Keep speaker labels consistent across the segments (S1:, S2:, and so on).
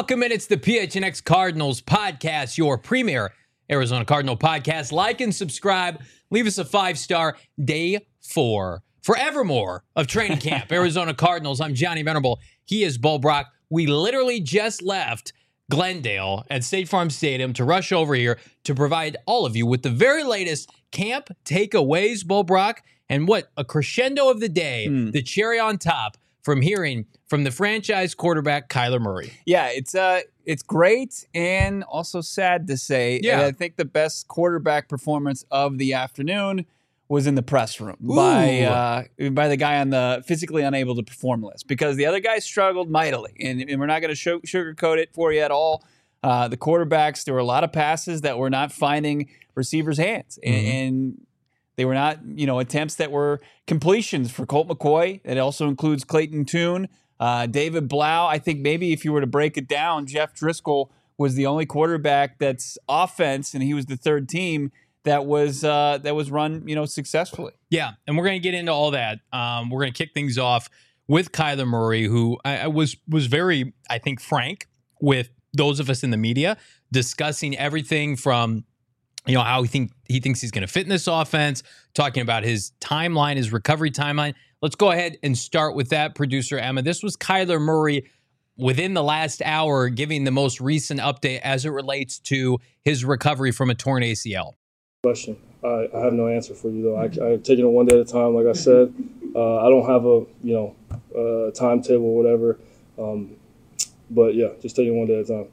S1: Welcome in. It's the PHNX Cardinals podcast, your premier Arizona Cardinal podcast. Like and subscribe. Leave us a 5-star. Day 4, forevermore of training camp. Arizona Cardinals. I'm Johnny Venerable. He is Bo Brock. We literally just left Glendale at State Farm Stadium to rush over here to provide all of you with the very latest camp takeaways, Bo Brock, and what a crescendo of the day, the cherry on top from hearing from the franchise quarterback, Kyler Murray.
S2: Yeah, it's great and also sad to say.
S1: Yeah.
S2: And I think the best quarterback performance of the afternoon was in the press room by the guy on the physically unable to perform list, because the other guy struggled mightily, and we're not going to sugarcoat it for you at all. The quarterbacks, there were a lot of passes that were not finding receivers' hands, and they were not, attempts that were completions for Colt McCoy. It also includes Clayton Tune, David Blau. I think maybe if you were to break it down, Jeff Driscoll was the only quarterback that's offense, and he was the third team that was run, successfully.
S1: Yeah, and we're going to get into all that. We're going to kick things off with Kyler Murray, who I was very, I think, frank with those of us in the media, discussing everything from how he thinks he's going to fit in this offense, talking about his timeline, his recovery timeline. Let's go ahead and start with that, producer Emma. This was Kyler Murray within the last hour giving the most recent update as it relates to his recovery from a torn ACL.
S3: Question. I have no answer for you, though. I'm taking it one day at a time, like I said. I don't have a timetable or whatever. But, yeah, just taking it one day at a time.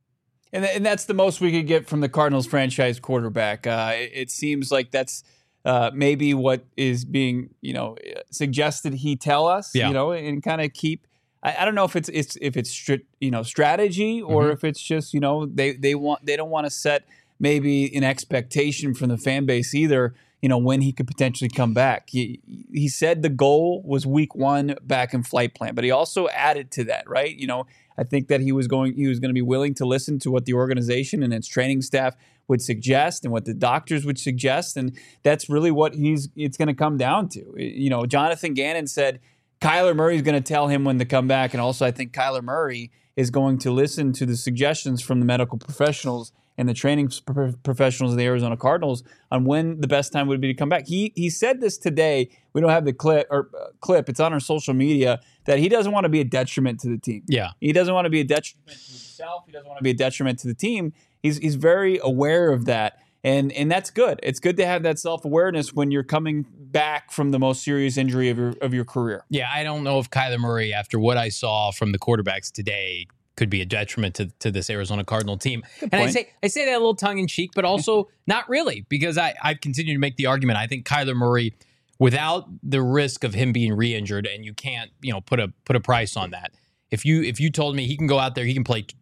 S2: And that's the most we could get from the Cardinals franchise quarterback. It seems like that's maybe what is being, suggested he tell us, and kind of keep. I don't know if it's strategy or if it's just, they don't want to set maybe an expectation from the fan base either, when he could potentially come back. He said the goal was week 1 back in flight plan, but he also added to that, right? I think that he was going to be willing to listen to what the organization and its training staff would suggest and what the doctors would suggest, and that's really what it's going to come down to. Jonathan Gannon said Kyler Murray is going to tell him when to come back, and also I think Kyler Murray is going to listen to the suggestions from the medical professionals and the training professionals of the Arizona Cardinals on when the best time would be to come back. He said this today. We don't have the clip. It's on our social media, that he doesn't want to be a detriment to the team.
S1: Yeah.
S2: He doesn't want to be a detriment to himself. He doesn't want to be a detriment to the team. He's very aware of that. And that's good. It's good to have that self-awareness when you're coming back from the most serious injury of your career.
S1: Yeah, I don't know if Kyler Murray, after what I saw from the quarterbacks today, could be a detriment to this Arizona Cardinal team. And I say that a little tongue-in-cheek, but also not really, because I've continued to make the argument. I think Kyler Murray, without the risk of him being re-injured, and you can't put a price on that. If you told me he can go out there, he can play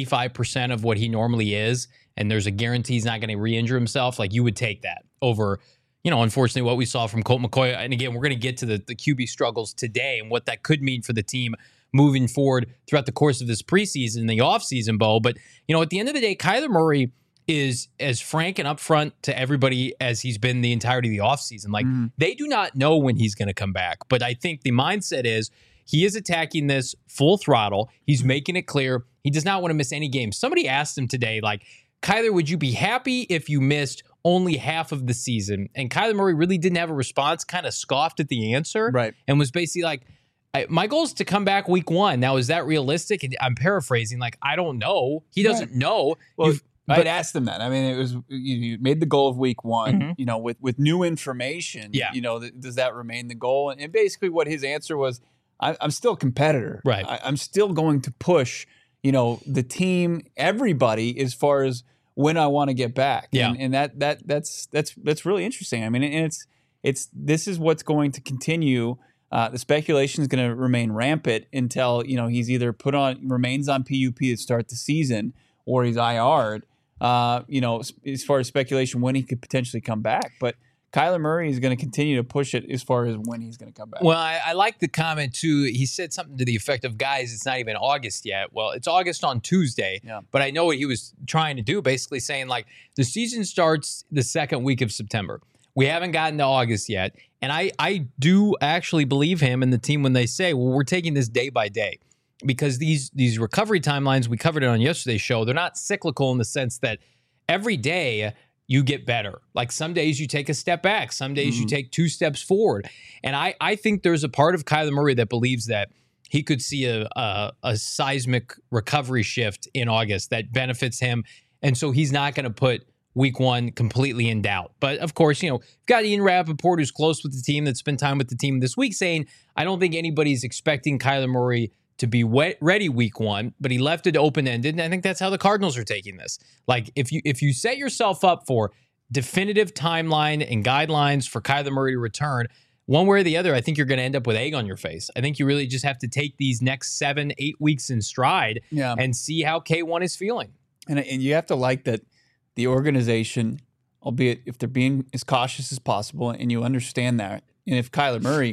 S1: 85% of what he normally is, and there's a guarantee he's not going to re-injure himself, like, you would take that over, unfortunately, what we saw from Colt McCoy. And again, we're going to get to the QB struggles today and what that could mean for the team moving forward throughout the course of this preseason, the offseason, Bo. But, at the end of the day, Kyler Murray is as frank and upfront to everybody as he's been the entirety of the offseason. Like, they do not know when he's going to come back. But I think the mindset is he is attacking this full throttle. He's making it clear he does not want to miss any games. Somebody asked him today, like, Kyler, would you be happy if you missed only half of the season? And Kyler Murray really didn't have a response, kind of scoffed at the answer,
S2: right,
S1: and was basically like, my goal is to come back week 1. Now, is that realistic? And I'm paraphrasing, like, I don't know. He doesn't know.
S2: Well, I'd asked him that. I mean, it was, you made the goal of week 1, with new information, does that remain the goal? And basically what his answer was, I'm still a competitor.
S1: Right.
S2: I'm still going to push, the team, everybody, as far as when I want to get back.
S1: Yeah.
S2: And that's really interesting. I mean, and this is what's going to continue. The speculation is going to remain rampant until, he's either remains on PUP to start the season, or he's IR'd, as far as speculation when he could potentially come back. But Kyler Murray is going to continue to push it as far as when he's going to come back.
S1: Well, I like the comment, too. He said something to the effect of, guys, it's not even August yet. Well, it's August on Tuesday, but I know what he was trying to do, basically saying, like, the season starts the second week of September. We haven't gotten to August yet. And I do actually believe him and the team when they say, well, we're taking this day by day. because these recovery timelines, we covered it on yesterday's show, they're not cyclical in the sense that every day you get better. Like some days you take a step back, some days you take 2 steps forward. And I think there's a part of Kyler Murray that believes that he could see a seismic recovery shift in August that benefits him. And so he's not going to put week 1 completely in doubt. But of course, you've got Ian Rappaport, who's close with the team, that spent time with the team this week, saying, I don't think anybody's expecting Kyler Murray to be ready week 1, but he left it open-ended. And I think that's how the Cardinals are taking this. Like if you set yourself up for definitive timeline and guidelines for Kyler Murray to return, one way or the other, I think you're going to end up with egg on your face. I think you really just have to take these next 7-8 weeks in stride and see how K1 is feeling.
S2: And you have to like that the organization, albeit if they're being as cautious as possible, and you understand that. And if Kyler Murray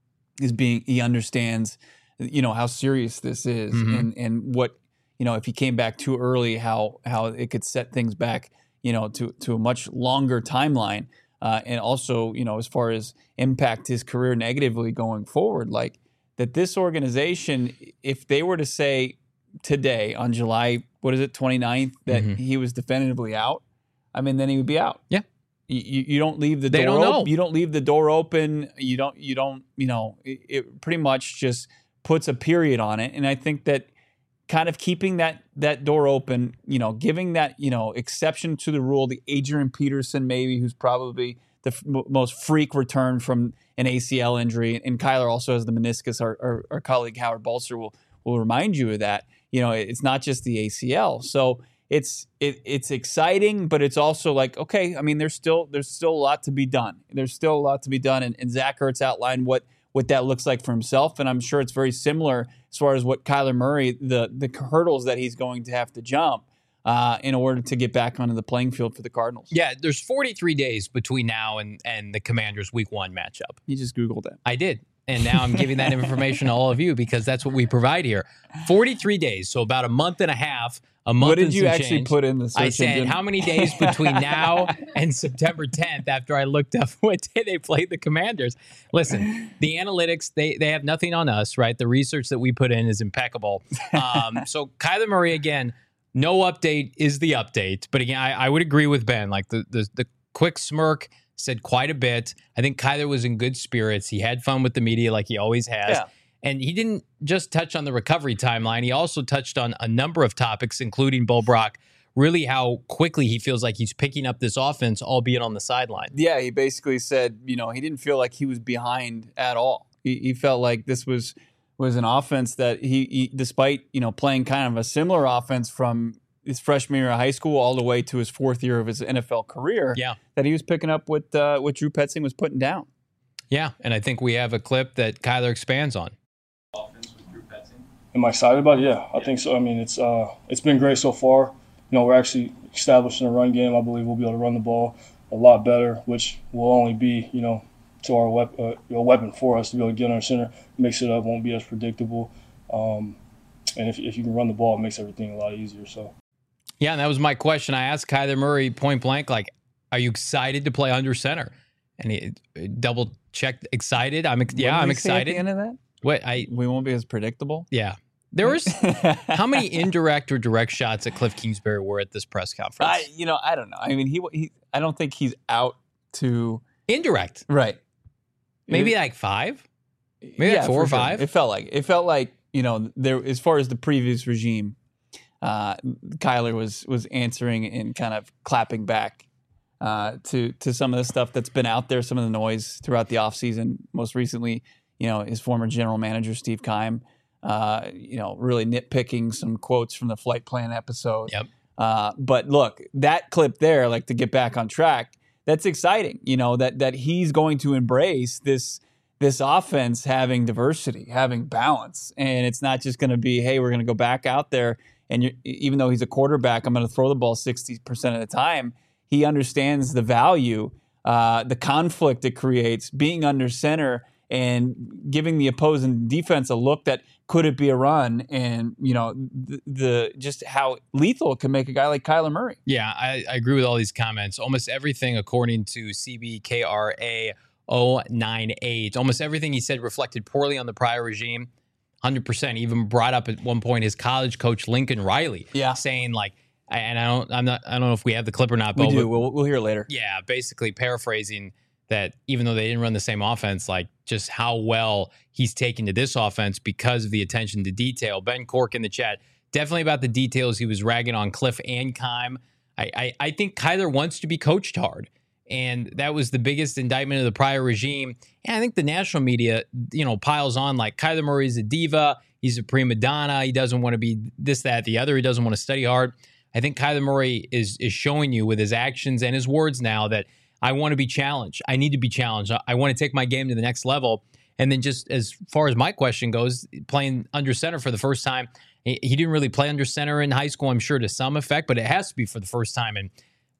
S2: he understands, how serious this is and what, if he came back too early, how it could set things back, to a much longer timeline. And also, as far as impact his career negatively going forward, like that this organization, if they were to say today on July, 29th, that he was definitively out, I mean, then he would be out.
S1: Yeah.
S2: You don't leave the
S1: door
S2: open. You don't leave the door open. You don't, it pretty much just puts a period on it. And I think that kind of keeping that door open, giving that, exception to the rule, the Adrian Peterson maybe, who's probably the most freak return from an ACL injury. And Kyler also has the meniscus. Our colleague Howard Balser will remind you of that. It's not just the ACL. So it's exciting, but it's also like, okay, I mean, there's still a lot to be done. There's still a lot to be done. And Zach Ertz outlined what that looks like for himself. And I'm sure it's very similar as far as what Kyler Murray, the hurdles that he's going to have to jump in order to get back onto the playing field for the Cardinals.
S1: Yeah, there's 43 days between now and the Commanders' Week 1 matchup.
S2: You just Googled it.
S1: I did. And now I'm giving that information to all of you because that's what we provide here. 43 days, so about a month and a half.
S2: What did you actually put in the search
S1: I said,
S2: engine?
S1: how many days between now and September 10th after I looked up what day they played the Commanders? Listen, the analytics, they have nothing on us, right? The research that we put in is impeccable. So Kyler Murray, again, no update is the update. But again, I would agree with Ben. Like the quick smirk said quite a bit. I think Kyler was in good spirits. He had fun with the media like he always has. Yeah. And he didn't just touch on the recovery timeline. He also touched on a number of topics, including Bo Brock, really how quickly he feels like he's picking up this offense, albeit on the sideline.
S2: Yeah, he basically said, he didn't feel like he was behind at all. He felt like this was an offense that he despite, playing kind of a similar offense from his freshman year of high school all the way to his 4th year of his NFL career, that he was picking up what Drew Petzing was putting down.
S1: Yeah, and I think we have a clip that Kyler expands on.
S3: Am I excited about it? Yeah, I think so. I mean, it's been great so far. We're actually establishing a run game. I believe we'll be able to run the ball a lot better, which will only be, to our weapon for us to be able to get under center, mix it up, won't be as predictable. And if you can run the ball, it makes everything a lot easier. So.
S1: Yeah, and that was my question. I asked Kyler Murray point blank, like, are you excited to play under center? And he double checked excited. I'm excited.
S2: At the end of that? We won't be as predictable.
S1: Yeah. There was how many indirect or direct shots at Cliff Kingsbury were at this press conference?
S2: I don't know. I mean, he I don't think he's out to
S1: indirect.
S2: Right.
S1: Maybe like 5? Maybe like 4 or 5?
S2: Sure. It felt like, there as far as the previous regime, Kyler was answering and kind of clapping back to some of the stuff that's been out there, some of the noise throughout the offseason. Most recently, his former general manager, Steve Keim, really nitpicking some quotes from the flight plan episode.
S1: Yep.
S2: But look, that clip there, like to get back on track, that's exciting. That he's going to embrace this offense having diversity, having balance. And it's not just going to be, hey, we're going to go back out there. And even though he's a quarterback, I'm going to throw the ball 60% of the time. He understands the value, the conflict it creates, being under center and giving the opposing defense a look that could it be a run, and the just how lethal it can make a guy like Kyler Murray.
S1: Yeah, I agree with all these comments. Almost everything, according to CBKRA 098, almost everything he said reflected poorly on the prior regime. 100%. Even brought up at one point his college coach Lincoln Riley, saying like, and I don't know if we have the clip or not.
S2: We do. We'll hear it later.
S1: Yeah, basically paraphrasing that even though they didn't run the same offense, like just how well he's taken to this offense because of the attention to detail. Ben Cork in the chat, definitely about the details. He was ragging on Cliff and Keim. I think Kyler wants to be coached hard. And that was the biggest indictment of the prior regime. And I think the national media, piles on like Kyler Murray's a diva. He's a prima donna. He doesn't want to be this, that, the other. He doesn't want to study hard. I think Kyler Murray is showing you with his actions and his words now that I want to be challenged. I need to be challenged. I want to take my game to the next level. And then just as far as my question goes, playing under center for the first time, he didn't really play under center in high school, I'm sure to some effect, but it has to be for the first time in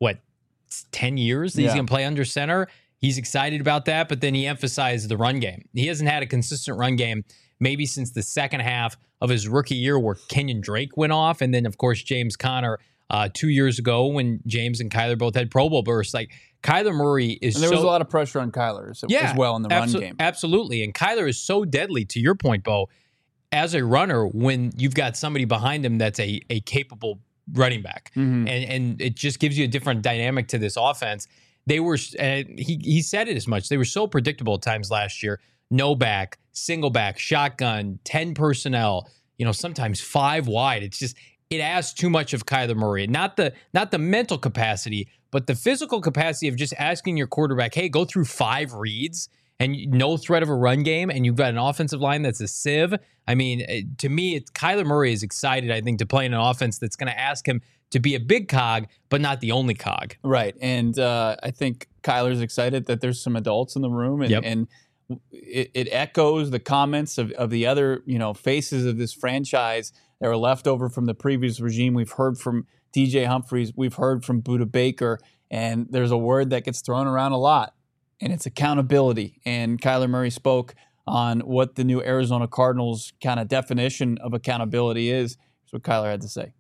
S1: 10 years that he's going to play under center. He's excited about that, but then he emphasized the run game. He hasn't had a consistent run game maybe since the second half of his rookie year where Kenyon Drake went off. And then, of course, James Conner 2 years ago when James and Kyler both had Pro Bowl bursts. Like, Kyler Murray is
S2: and there was a lot of pressure on Kyler as well in the run game.
S1: Absolutely. And Kyler is so deadly, to your point, Bo, as a runner when you've got somebody behind him that's a capable running back. And it just gives you a different dynamic to this offense. They were, he said it as much. They were so predictable at times last year. No back, single back, shotgun, 10 personnel, sometimes 5 wide. It's just, it asks too much of Kyler Murray. Not the mental capacity, but the physical capacity of just asking your quarterback, hey, go through 5 reads and no threat of a run game, and you've got an offensive line that's a sieve. I mean, to me, Kyler Murray is excited, I think, to play in an offense that's going to ask him to be a big cog, but not the only cog.
S2: Right, and I think Kyler's excited that there's some adults in the room, and it echoes the comments of the other faces of this franchise that were left over from the previous regime. We've heard from DJ Humphries, we've heard from Budda Baker, and there's a word that gets thrown around a lot, and it's accountability. And Kyler Murray spoke on what the new Arizona Cardinals kind of definition of accountability is. Here's what Kyler had to say.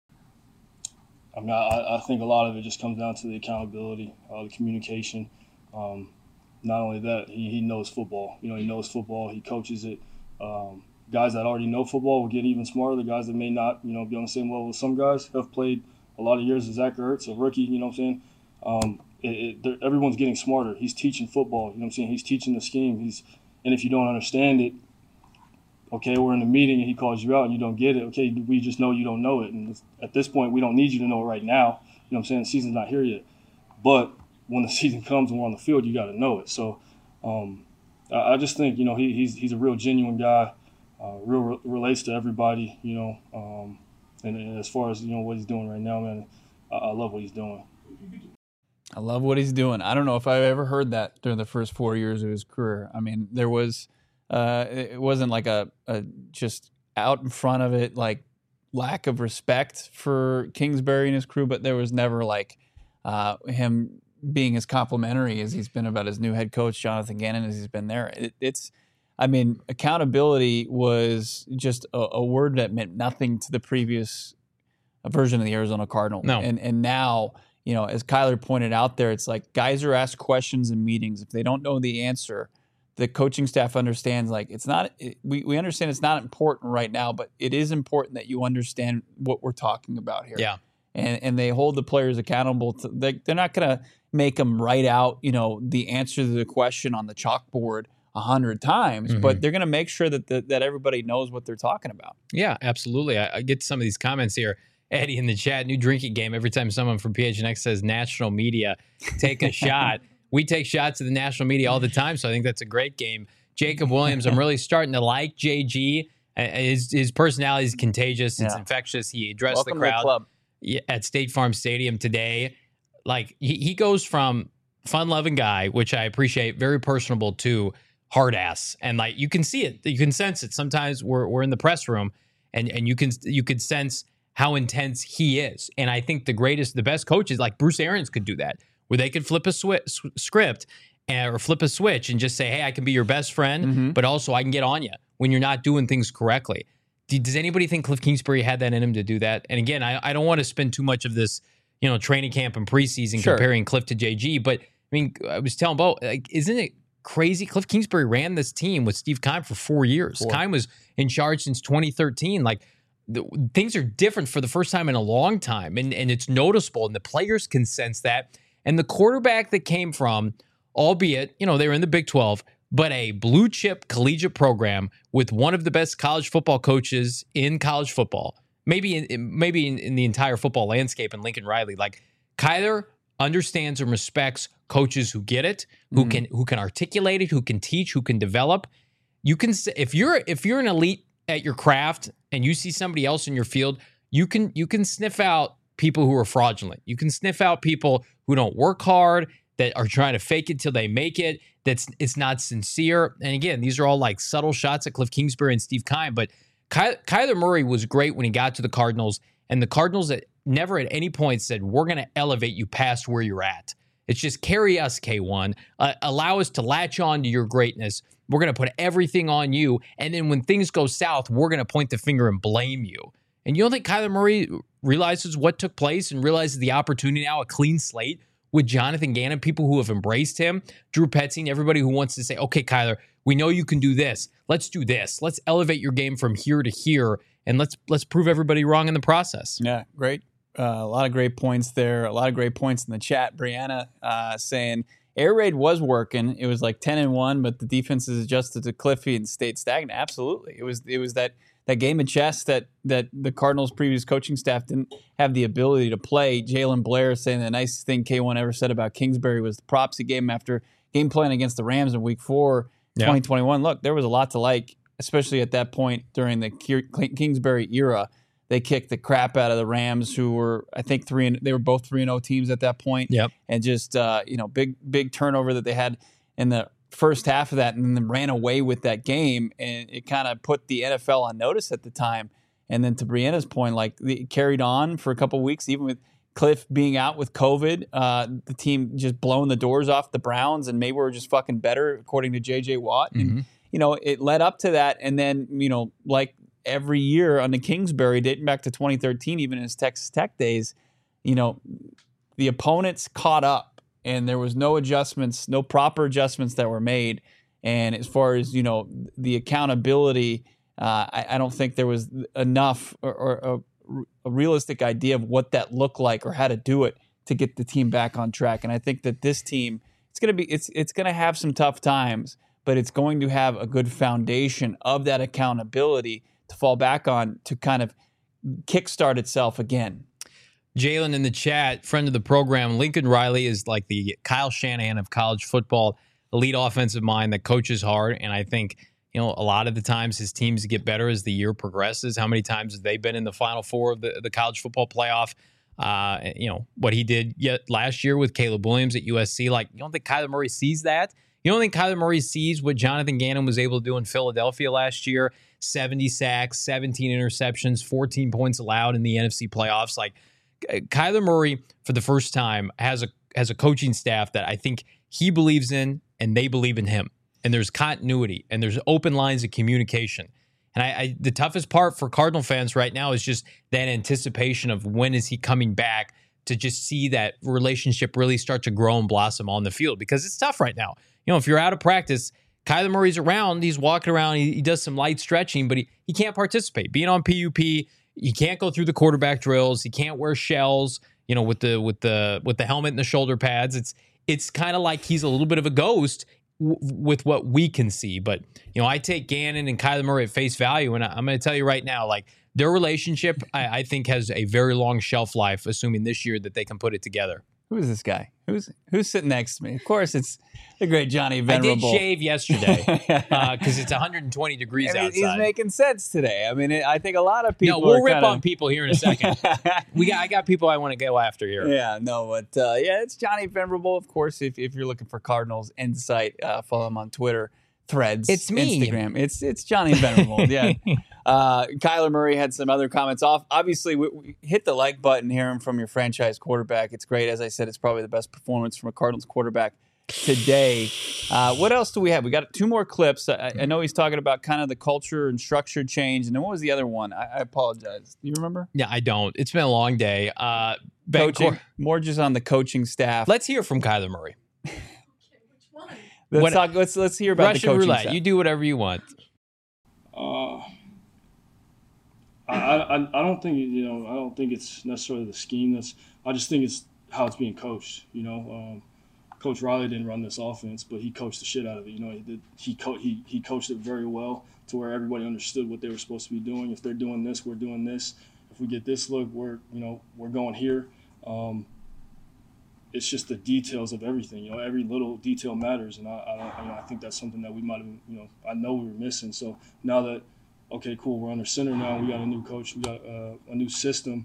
S3: I mean, I think a lot of it just comes down to the accountability, the communication. Not only that, he knows football. He knows football. He coaches it. Guys that already know football will get even smarter. The guys that may not, be on the same level as some guys have played a lot of years as Zach Ertz, a rookie, you know what I'm saying? Everyone's getting smarter. He's teaching football, you know what I'm saying? He's teaching the scheme. And if you don't understand it, okay, we're in a meeting and he calls you out and you don't get it. Okay, we just know you don't know it. And at this point, we don't need you to know it right now. You know what I'm saying? The season's not here yet. But when the season comes and we're on the field, you got to know it. So I just think, he's a real genuine guy, relates to everybody, and as far as, what he's doing right now, man, I love what he's doing.
S2: I love what he's doing. I don't know if I've ever heard that during the first 4 years of his career. I mean, there was it wasn't like a just out in front of it, like lack of respect for Kingsbury and his crew, but there was never like him being as complimentary as he's been about his new head coach, Jonathan Gannon, as he's been there. Accountability was just a word that meant nothing to the previous version of the Arizona Cardinals.
S1: No.
S2: And now, as Kyler pointed out there, it's like guys are asked questions in meetings. If they don't know the answer, the coaching staff understands, like, we understand it's not important right now, but it is important that you understand what we're talking about here.
S1: Yeah.
S2: And they hold the players accountable. They're not going to make them write out, the answer to the question on the chalkboard 100 times, but they're going to make sure that everybody knows what they're talking about.
S1: Yeah, absolutely. I get to some of these comments here. Eddie in the chat, new drinking game. Every time someone from PHNX says national media, take a shot. We take shots at the national media all the time, so I think that's a great game. Jacob Williams, I'm really starting to like JG. His personality is contagious. It's infectious. He addressed the crowd at State Farm Stadium today. Like, he goes from fun-loving guy, which I appreciate, very personable, to hard ass. And like, you can see it. You can sense it. Sometimes we're in the press room and you could sense how intense he is. And I think the best coaches like Bruce Arians could do that, where they could flip a script or flip a switch and just say, hey, I can be your best friend, but also I can get on you when you're not doing things correctly. Does anybody think Cliff Kingsbury had that in him to do that? And again, I don't want to spend too much of this, training camp and preseason comparing Cliff to JG, but I mean, I was telling Bo, like, isn't it crazy. Cliff Kingsbury ran this team with Steve Keim for 4 years. Keim was in charge since 2013. Like, things are different for the first time in a long time, and it's noticeable, and the players can sense that. And the quarterback that came from, albeit, they were in the Big 12, but a blue chip collegiate program with one of the best college football coaches in college football, maybe in the entire football landscape, in Lincoln Riley. Like, Kyler understands and respects coaches who get it, who can articulate it, who can teach, who can develop. You can, if you're an elite at your craft and you see somebody else in your field, you can sniff out people who are fraudulent. You can sniff out people who don't work hard, that are trying to fake it till they make it. It's not sincere. And again, these are all like subtle shots at Cliff Kingsbury and Steve Keim. But Kyler Murray was great when he got to the Cardinals, and the Cardinals that never at any point said, we're going to elevate you past where you're at. It's just carry us, K1. Allow us to latch on to your greatness. We're going to put everything on you. And then when things go south, we're going to point the finger and blame you. And you don't think Kyler Murray realizes what took place and realizes the opportunity now, a clean slate with Jonathan Gannon, people who have embraced him, Drew Petzing, everybody who wants to say, okay, Kyler, we know you can do this. Let's do this. Let's elevate your game from here to here, and let's prove everybody wrong in the process.
S2: Yeah, great. A lot of great points there. A lot of great points in the chat. Brianna saying air raid was working. It was like 10-1, but the defenses adjusted to Cliffy and stayed stagnant. Absolutely, it was that game of chess that the Cardinals' previous coaching staff didn't have the ability to play. Jalen Blair saying the nicest thing K1 ever said about Kingsbury was the props he gave him after game plan against the Rams in Week 4, 2021. Look, there was a lot to like, especially at that point during the Kingsbury era. They kicked the crap out of the Rams, who were, I think, they were both 3-0 teams at that point.
S1: Yep.
S2: And just big turnover that they had in the first half of that, and then ran away with that game, and it kind of put the NFL on notice at the time. And then to Brianna's point, like, it carried on for a couple of weeks, even with Cliff being out with COVID, the team just blowing the doors off the Browns, and maybe we're just fucking better, according to J.J. Watt. And, it led up to that, and then, like every year on the Kingsbury, dating back to 2013, even in his Texas Tech days, the opponents caught up. And there was no proper adjustments that were made. And as far as, the accountability, I don't think there was enough or a realistic idea of what that looked like or how to do it to get the team back on track. And I think that this team, it's going to have some tough times, but it's going to have a good foundation of that accountability to fall back on to kind of kickstart itself again.
S1: Jalen in the chat, friend of the program, Lincoln Riley is like the Kyle Shanahan of college football, elite offensive mind that coaches hard. And I think, a lot of the times his teams get better as the year progresses. How many times have they been in the Final Four of the college football playoff? What he did last year with Caleb Williams at USC. Like, you don't think Kyler Murray sees that? You don't think Kyler Murray sees what Jonathan Gannon was able to do in Philadelphia last year? 70 sacks, 17 interceptions, 14 points allowed in the NFC playoffs. Like, Kyler Murray, for the first time, has a coaching staff that I think he believes in and they believe in him. And there's continuity and there's open lines of communication. And the toughest part for Cardinal fans right now is just that anticipation of when is he coming back to just see that relationship really start to grow and blossom on the field, because it's tough right now. If you're out of practice, Kyler Murray's around, he's walking around, he does some light stretching, but he can't participate. Being on PUP, he can't go through the quarterback drills. He can't wear shells, with the helmet and the shoulder pads. It's kind of like he's a little bit of a ghost with what we can see. But I take Gannon and Kyler Murray at face value, and I'm going to tell you right now, like, their relationship, I think, has a very long shelf life, assuming this year that they can put it together.
S2: Who is this guy? Who's sitting next to me? Of course, it's the great Johnny Venerable.
S1: I did shave yesterday because it's 120 degrees outside.
S2: He's making sense today. I mean, I think a lot of people.
S1: No, we'll rip on people here in a second. I got people I want to go after here.
S2: Yeah, no, but it's Johnny Venerable. Of course, if you're looking for Cardinals insight, follow him on Twitter, Threads,
S1: it's me.
S2: Instagram. It's Johnny Venerable. Yeah. Kyler Murray had some other comments off. Obviously, we hit the like button, hearing from your franchise quarterback. It's great. As I said, it's probably the best performance from a Cardinals quarterback today. What else do we have? We got 2 more clips. I know he's talking about kind of the culture and structure change. And then what was the other one? I apologize. Do you remember?
S1: Yeah, I don't. It's been a long day.
S2: Coaching, more just on the coaching staff.
S1: Let's hear from Kyler Murray.
S2: Let's hear about
S1: Russian
S2: the coaching
S1: roulette.
S2: staff.
S1: You do whatever you want.
S3: I don't think I don't think it's necessarily the scheme. I just think it's how it's being coached. Coach Riley didn't run this offense, but he coached the shit out of it. He coached it very well to where everybody understood what they were supposed to be doing. If they're doing this, we're doing this. If we get this look, we're going here. It's just the details of everything. Every little detail matters, and I think that's something that we might have. I know we were missing. So now that, okay, cool, we're under center now. We got a new coach. We got a new system.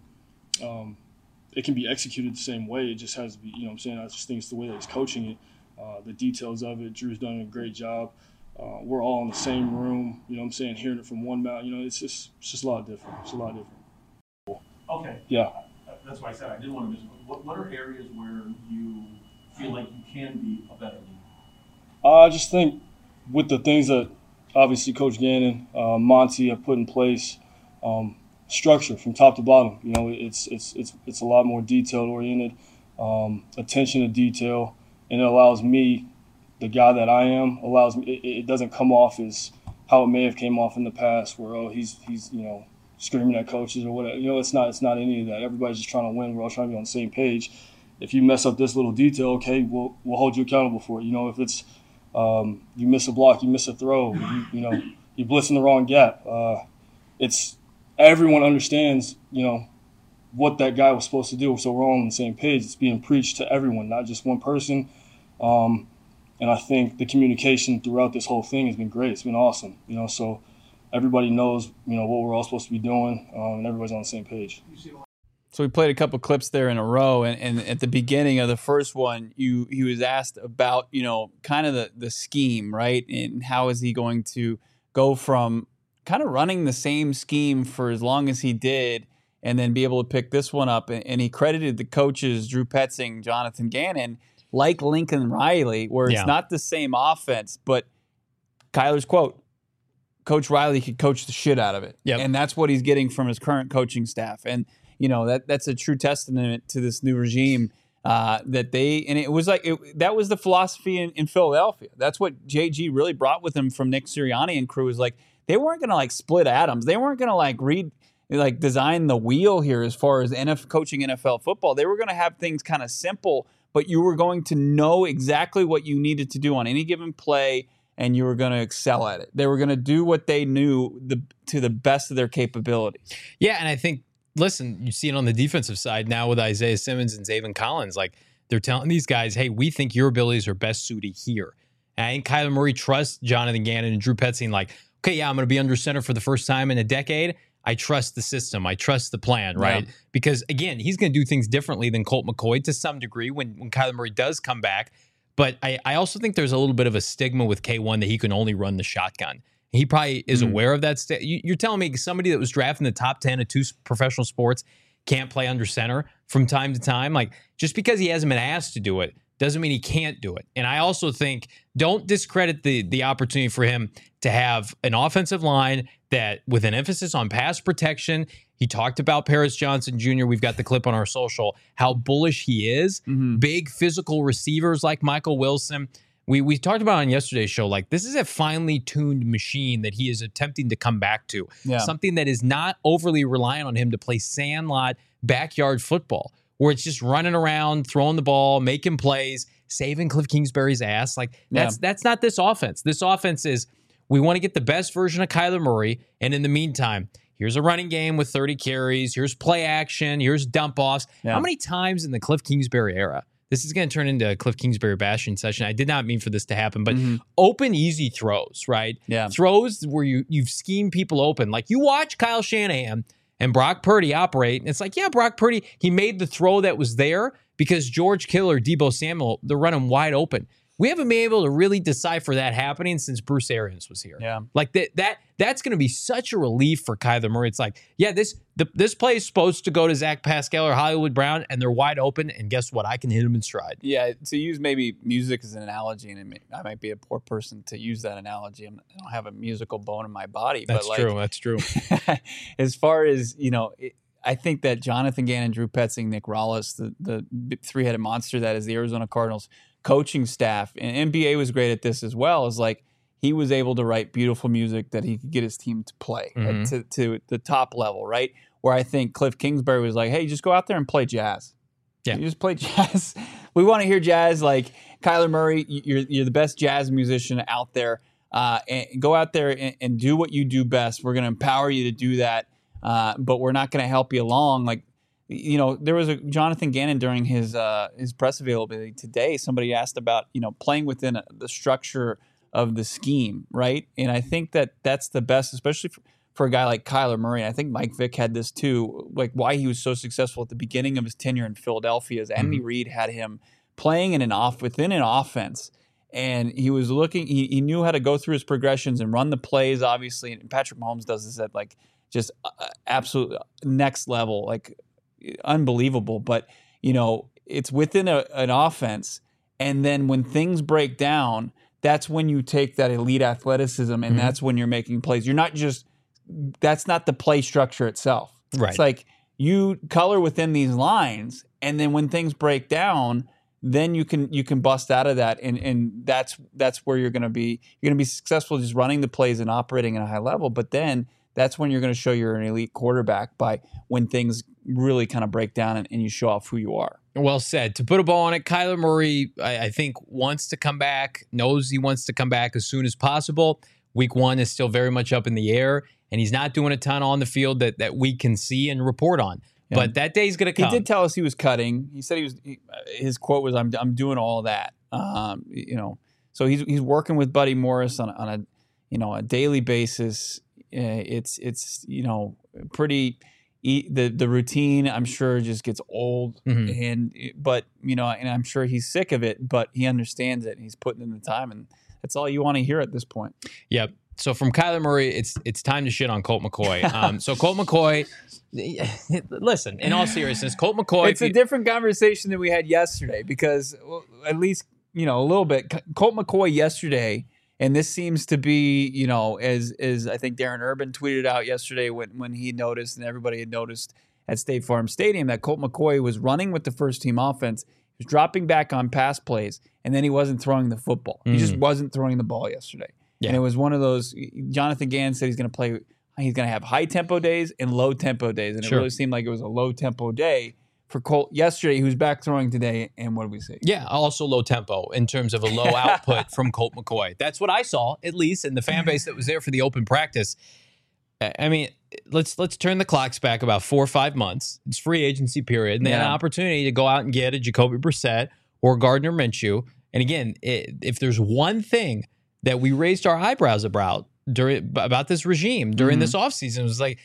S3: It can be executed the same way. It just has to be. What I'm saying? I just think it's the way that he's coaching it, the details of it. Drew's done a great job. We're all in the same room. What I'm saying? Hearing it from one mouth. It's just a lot different. It's a lot different.
S4: Okay.
S3: Yeah.
S4: That's why I said I didn't want to miss. What are areas where you feel like you can be a better leader?
S3: I just think with the things that obviously Coach Gannon, Monty have put in place, structure from top to bottom. It's a lot more detail oriented, attention to detail, and it allows me, the guy that I am, it doesn't come off as how it may have came off in the past, where he's screaming at coaches or whatever. It's not any of that. Everybody's just trying to win. We're all trying to be on the same page. If you mess up this little detail, okay, we'll hold you accountable for it. If it's you miss a block, you miss a throw, you blitz in the wrong gap. It's everyone understands, what that guy was supposed to do. So we're all on the same page. It's being preached to everyone, not just one person. And I think the communication throughout this whole thing has been great. It's been awesome. So everybody knows, what we're all supposed to be doing, and everybody's on the same page.
S2: So we played a couple clips there in a row, and at the beginning of the first one, he was asked about, kind of the scheme, right? And how is he going to go from kind of running the same scheme for as long as he did and then be able to pick this one up. And he credited the coaches, Drew Petzing, Jonathan Gannon, like Lincoln Riley, where it's not the same offense, but Kyler's quote, Coach Riley could coach the shit out of it.
S1: Yep.
S2: And that's what he's getting from his current coaching staff. And, that's a true testament to this new regime that it was like, that was the philosophy in Philadelphia. That's what JG really brought with him from Nick Sirianni and crew, is like, they weren't going to split atoms. They weren't going to design the wheel here as far as coaching NFL football. They were going to have things kind of simple, but you were going to know exactly what you needed to do on any given play, and you were going to excel at it. They were going to do what they knew to the best of their capabilities.
S1: Yeah, and I think, listen, you see it on the defensive side now with Isaiah Simmons and Zaven Collins. They're telling these guys, hey, we think your abilities are best suited here. And I think Kyler Murray trusts Jonathan Gannon and Drew Petzing, okay, yeah, I'm going to be under center for the first time in a decade. I trust the system. I trust the plan, right? Yeah. Because, again, he's going to do things differently than Colt McCoy to some degree when Kyler Murray does come back. But I also think there's a little bit of a stigma with K1 that he can only run the shotgun. He probably is aware of that. You're telling me somebody that was drafted in the top 10 of 2 professional sports can't play under center from time to time? Just because he hasn't been asked to do it doesn't mean he can't do it. And I also think don't discredit the opportunity for him to have an offensive line that, with an emphasis on pass protection. He talked about Paris Johnson Jr. We've got the clip on our social, how bullish he is. Mm-hmm. Big physical receivers like Michael Wilson. We talked about on yesterday's show, this is a finely tuned machine that he is attempting to come back to. Yeah. Something that is not overly reliant on him to play sandlot backyard football, where it's just running around, throwing the ball, making plays, saving Cliff Kingsbury's ass. That's not this offense. This offense is, we want to get the best version of Kyler Murray, and in the meantime, here's a running game with 30 carries, here's play action, here's dump offs. Yeah. How many times in the Cliff Kingsbury era, this is going to turn into a Cliff Kingsbury bashing session. I did not mean for this to happen, but open, easy throws, right? Yeah. Throws where you've schemed people open. You watch Kyle Shanahan and Brock Purdy operate, and it's Brock Purdy, he made the throw that was there because George Kittle or Deebo Samuel, they're running wide open. We haven't been able to really decipher that happening since Bruce Arians was here. Yeah. That's going to be such a relief for Kyler Murray. It's this play is supposed to go to Zach Pascal or Hollywood Brown, and they're wide open, and guess what? I can hit them in stride.
S2: Yeah, to use maybe music as an analogy, and I might be a poor person to use that analogy. I don't have a musical bone in my body.
S1: That's true.
S2: As far as, I think that Jonathan Gannon, Drew Petzing, Nick Rallis, the three-headed monster that is the Arizona Cardinals, coaching staff, and NBA was great at this as well, is like he was able to write beautiful music that he could get his team to play to the top level, right? Where I think Cliff Kingsbury was like, hey, just go out there and play jazz. Yeah. You just play jazz. We want to hear jazz. Like Kyler Murray, you're the best jazz musician out there. And go out there and do what you do best. We're going to empower you to do that, but we're not going to help you along. Like, you know, there was a Jonathan Gannon during his press availability today. Somebody asked about, you know, playing within the structure of the scheme, right? And I think that's the best, especially for a guy like Kyler Murray. And I think Mike Vick had this too, like why he was so successful at the beginning of his tenure in Philadelphia is Andy Reid had him playing within an offense. And he was looking, he knew how to go through his progressions and run the plays, obviously. And Patrick Mahomes does this at like just absolute next level, like unbelievable. But, you know, it's within an offense. And then when things break down, that's when you take that elite athleticism and that's when you're making plays. You're not just, that's not the play structure itself.
S1: Right.
S2: It's like you color within these lines. And then when things break down, then you can bust out of that, and that's where you're going to be successful just running the plays and operating at a high level. But then that's when you're going to show you're an elite quarterback by when things really kind of break down and you show off who you are.
S1: Well said. To put a bow on it, Kyler Murray, I think wants to come back, knows he wants to come back as soon as possible. Week 1 is still very much up in the air, and he's not doing a ton on the field that we can see and report on. Yeah. But that day's going to come.
S2: He did tell us he was cutting. He said his quote was, "I'm doing all of that." You know, so he's working with Buddy Morris on a daily basis. It's you know pretty. The routine I'm sure just gets old, but you know, and I'm sure he's sick of it. But he understands it. And he's putting in the time, and that's all you want to hear at this point.
S1: Yep. So from Kyler Murray, it's time to shit on Colt McCoy. So Colt McCoy, listen, in all seriousness, Colt McCoy.
S2: It's a different conversation than we had yesterday because at least, you know, a little bit. Colt McCoy yesterday, and this seems to be, you know, as I think Darren Urban tweeted out yesterday when he noticed and everybody had noticed at State Farm Stadium that Colt McCoy was running with the first team offense. He was dropping back on pass plays, and then he wasn't throwing the football. He just wasn't throwing the ball yesterday. Yeah. And it was one of those, Jonathan Gannon said he's going to have high-tempo days and low-tempo days. And it really seemed like it was a low-tempo day for Colt yesterday, who's back throwing today. And what did we see?
S1: Yeah, also low-tempo in terms of a low output from Colt McCoy. That's what I saw, at least, in the fan base that was there for the open practice. I mean, let's turn the clocks back about 4 or 5 months. It's free agency period. And they had an opportunity to go out and get a Jacoby Brissett or Gardner Minshew. And again, if there's one thing that we raised our eyebrows about this regime during this offseason, was like,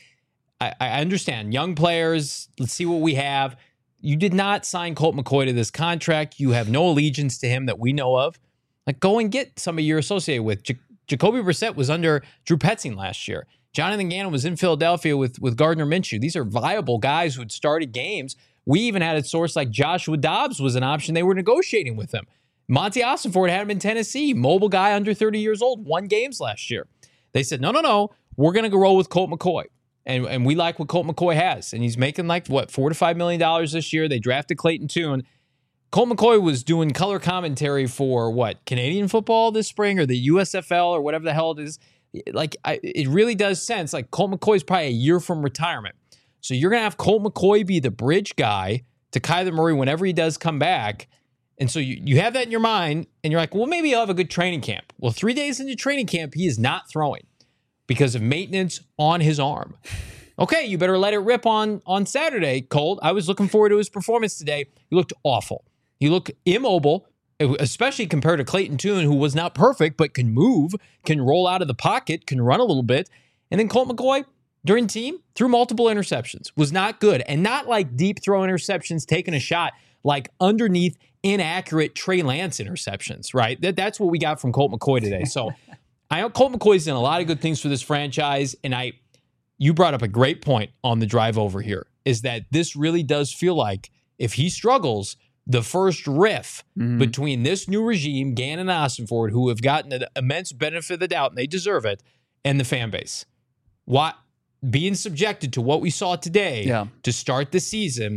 S1: I understand young players. Let's see what we have. You did not sign Colt McCoy to this contract. You have no allegiance to him that we know of. Like, go and get somebody you're associated with. Jacoby Brissett was under Drew Petzing last year. Jonathan Gannon was in Philadelphia with Gardner Minshew. These are viable guys who had started games. We even had a source like Joshua Dobbs was an option. They were negotiating with him. Monty Ossenford had him in Tennessee. Mobile guy under 30 years old, won games last year. They said, no, we're going to roll with Colt McCoy. And we like what Colt McCoy has. And he's making like, $4 to $5 million this year. They drafted Clayton Tune. Colt McCoy was doing color commentary for Canadian football this spring or the USFL or whatever the hell it is. Like, it really does sense. Like, Colt McCoy's probably a year from retirement. So you're going to have Colt McCoy be the bridge guy to Kyler Murray whenever he does come back. And so you have that in your mind, and you're like, well, maybe he'll have a good training camp. Well, 3 days into training camp, he is not throwing because of maintenance on his arm. Okay, you better let it rip on Saturday, Colt. I was looking forward to his performance today. He looked awful. He looked immobile, especially compared to Clayton Tune, who was not perfect, but can move, can roll out of the pocket, can run a little bit. And then Colt McCoy, during team, threw multiple interceptions, was not good. And not like deep throw interceptions, taking a shot, like underneath inaccurate Trey Lance interceptions, right? That's what we got from Colt McCoy today. So I know Colt McCoy's done a lot of good things for this franchise, and you brought up a great point on the drive over here, is that this really does feel like if he struggles, the first riff between this new regime, Gannon and Ossenford, who have gotten an immense benefit of the doubt, and they deserve it, and the fan base. Being subjected to what we saw today to start the season,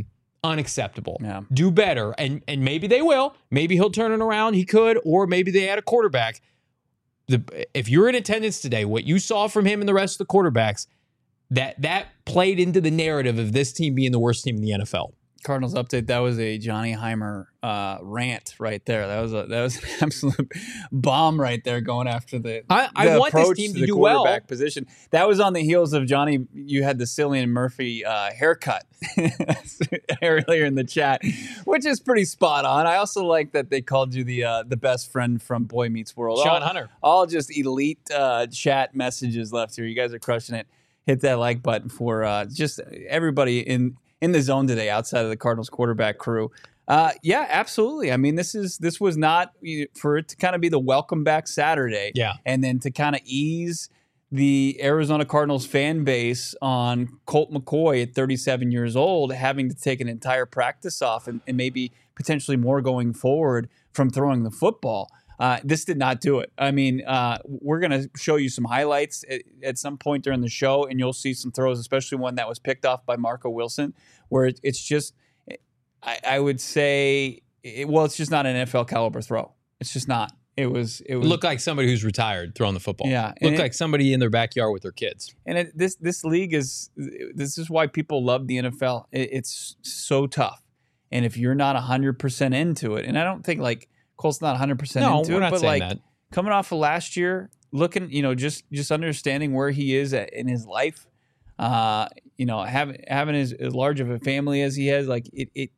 S1: unacceptable.
S2: Yeah.
S1: Do better. And maybe they will. Maybe he'll turn it around. He could. Or maybe they add a quarterback. If you're in attendance today, what you saw from him and the rest of the quarterbacks, that played into the narrative of this team being the worst team in the NFL.
S2: Cardinals update. That was a Johnny Heimer rant right there. That was an absolute bomb right there, going after the
S1: I want this team to do well.
S2: Quarterback position. That was on the heels of Johnny. You had the Cillian Murphy haircut earlier in the chat, which is pretty spot on. I also like that they called you the best friend from Boy Meets World.
S1: Sean Hunter.
S2: All just elite chat messages left here. You guys are crushing it. Hit that like button for just everybody in the zone today outside of the Cardinals quarterback crew. Yeah, absolutely. I mean, this was not for it to kind of be the welcome back Saturday.
S1: Yeah.
S2: And then to kind of ease the Arizona Cardinals fan base on Colt McCoy at 37 years old, having to take an entire practice off and maybe potentially more going forward from throwing the football. This did not do it. I mean, we're going to show you some highlights at some point during the show, and you'll see some throws, especially one that was picked off by Marco Wilson, where it's just, I would say, it's just not an NFL caliber throw. It's just not. It
S1: looked like somebody who's retired throwing the football.
S2: Yeah,
S1: looked like somebody in their backyard with their kids.
S2: And this league this is why people love the NFL. It's so tough, and if you're not 100% into it, and I don't think like Colt's not 100% into it, but like that. Coming off of last year, looking, just understanding where he is in his life, having as large of a family as he has, like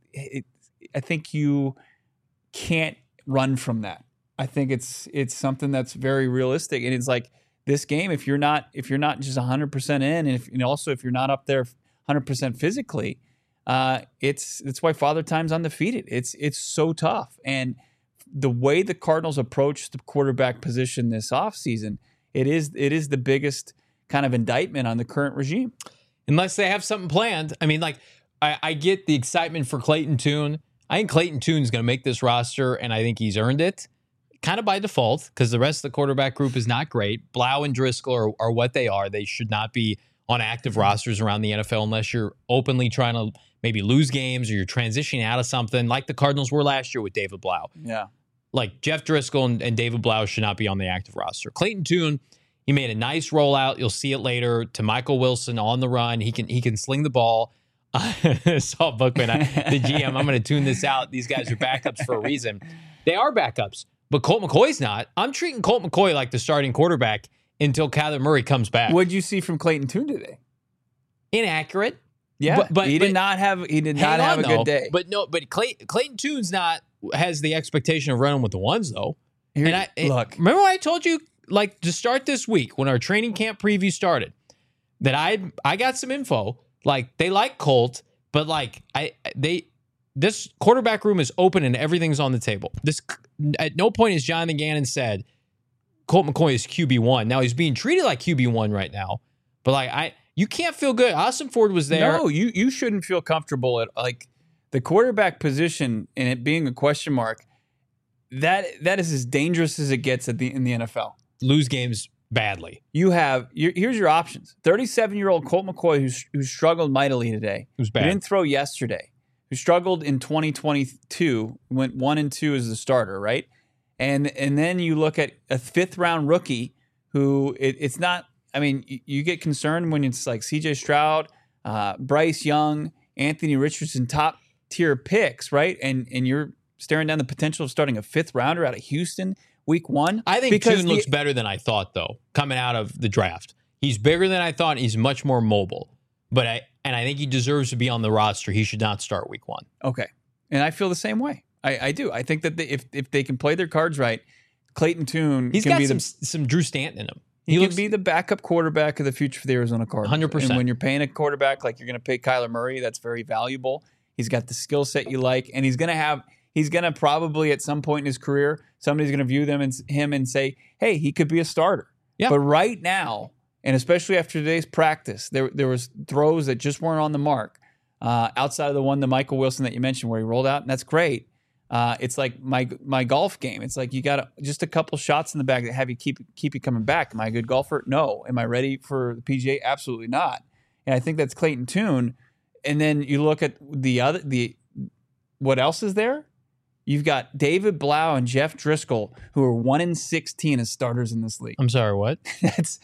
S2: I think you can't run from that. I think it's something that's very realistic, and it's like this game. If you're not just 100% in, and also if you're not up there 100% physically, it's why Father Time's undefeated. It's so tough, and the way the Cardinals approach the quarterback position this offseason, it is the biggest kind of indictment on the current regime.
S1: Unless they have something planned. I mean, like, I get the excitement for Clayton Tune. I think Clayton Tune's going to make this roster, and I think he's earned it kind of by default because the rest of the quarterback group is not great. Blau and Driscoll are what they are. They should not be on active rosters around the NFL unless you're openly trying to maybe lose games or you're transitioning out of something like the Cardinals were last year with David Blau.
S2: Yeah.
S1: Like Jeff Driscoll and David Blau should not be on the active roster. Clayton Tune, he made a nice rollout. You'll see it later to Michael Wilson on the run. He can sling the ball. Saul Bookman, the GM, I'm going to tune this out. These guys are backups for a reason. They are backups, but Colt McCoy's not. I'm treating Colt McCoy like the starting quarterback until Kyler Murray comes back.
S2: What did you see from Clayton Tune today?
S1: Inaccurate.
S2: Yeah, but he did not have a good day.
S1: But Clayton Tune's has the expectation of running with the ones though.
S2: Look,
S1: remember what I told you, like, to start this week when our training camp preview started, that I got some info. Like, they like Colt, but like this quarterback room is open and everything's on the table. This at no point has Jonathan Gannon said Colt McCoy is QB1. Now he's being treated like QB1 right now, but like you can't feel good. Austin Ford was there.
S2: No, you shouldn't feel comfortable at like the quarterback position and it being a question mark. That is as dangerous as it gets in the NFL.
S1: Lose games badly.
S2: Here's your options. 37-year-old Colt McCoy who struggled mightily today.
S1: Who's bad.
S2: Who didn't throw yesterday. Who struggled in 2022, went 1-2 as the starter, right? And then you look at a 5th-round rookie who it's not. I mean, you get concerned when it's like C.J. Stroud, Bryce Young, Anthony Richardson, top tier picks, right? And you're staring down the potential of starting a 5th rounder out of Houston week 1.
S1: I think Tune looks better than I thought, though, coming out of the draft. He's bigger than I thought. And he's much more mobile. But I think he deserves to be on the roster. He should not start week 1.
S2: Okay. And I feel the same way. I do. I think that if they can play their cards right, Clayton Tune
S1: he's got some Drew Stanton in him.
S2: He can be the backup quarterback of the future for the Arizona Cardinals.
S1: 100%.
S2: And when you're paying a quarterback like you're going to pay Kyler Murray, that's very valuable. He's got the skill set you like, and he's going to probably at some point in his career, somebody's going to view him and say, hey, he could be a starter.
S1: Yeah.
S2: But right now, and especially after today's practice, there was throws that just weren't on the mark outside of the one to Michael Wilson that you mentioned where he rolled out, and that's great. It's like my golf game. It's like you got just a couple shots in the bag that have you keep you coming back. Am I a good golfer? No. Am I ready for the PGA? Absolutely not. And I think that's Clayton Tune. And then you look at what else is there? You've got David Blau and Jeff Driscoll, who are 1-16 as starters in this league.
S1: I'm sorry, what?
S2: That's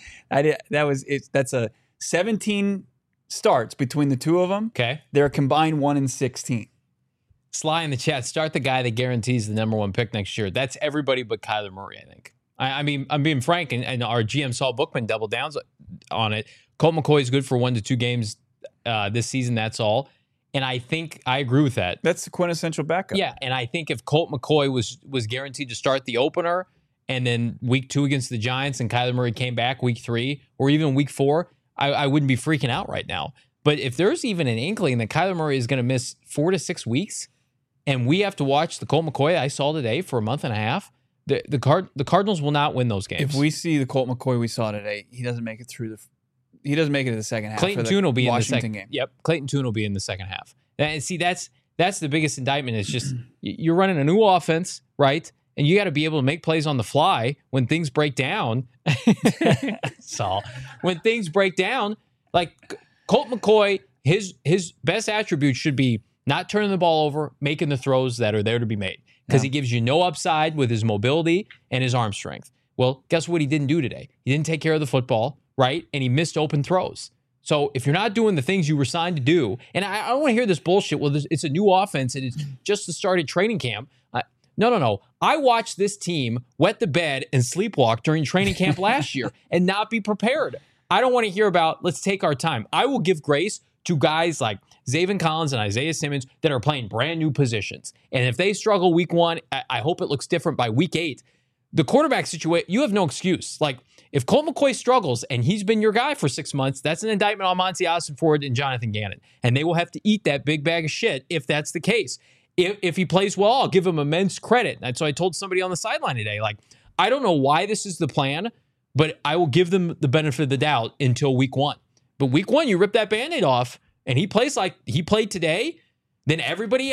S2: a 17 starts between the two of them.
S1: Okay.
S2: They're combined 1-16.
S1: Sly in the chat, start the guy that guarantees the number 1 pick next year. That's everybody but Kyler Murray, I think. I mean, I'm being frank, and our GM Saul Bookman doubled down on it. Colt McCoy is good for 1 to 2 games this season, that's all. And I think I agree with that.
S2: That's the quintessential backup.
S1: Yeah, and I think if Colt McCoy was guaranteed to start the opener, and then week 2 against the Giants, and Kyler Murray came back week 3, or even week 4, I wouldn't be freaking out right now. But if there's even an inkling that Kyler Murray is going to miss 4 to 6 weeks, and we have to watch the Colt McCoy I saw today for a month and a half, the Cardinals will not win those games.
S2: If we see the Colt McCoy we saw today, he doesn't make it through he doesn't make it to the second half.
S1: Clayton Tune will be
S2: Washington
S1: in the second
S2: game.
S1: Yep, Clayton Tune will be in the second half. And see, that's the biggest indictment. Is just you're running a new offense, right? And you got to be able to make plays on the fly when things break down. Saul, when things break down, like Colt McCoy, his best attribute should be not turning the ball over, making the throws that are there to be made, because he gives you no upside with his mobility and his arm strength. Well, guess what he didn't do today? He didn't take care of the football, right? And he missed open throws. So if you're not doing the things you were signed to do, and I don't want to hear this bullshit, well, it's a new offense and it's just the started training camp. No. I watched this team wet the bed and sleepwalk during training camp last year and not be prepared. I don't want to hear about, let's take our time. I will give grace to guys like Zaven Collins and Isaiah Simmons that are playing brand new positions. And if they struggle week 1, I hope it looks different by week 8. The quarterback situation, you have no excuse. Like, if Colt McCoy struggles and he's been your guy for 6 months, that's an indictment on Monty Ossenford and Jonathan Gannon. And they will have to eat that big bag of shit if that's the case. If he plays well, I'll give him immense credit. And so I told somebody on the sideline today, like, I don't know why this is the plan, but I will give them the benefit of the doubt until week 1. But week 1, you rip that Band-Aid off, and he plays like he played today, then everybody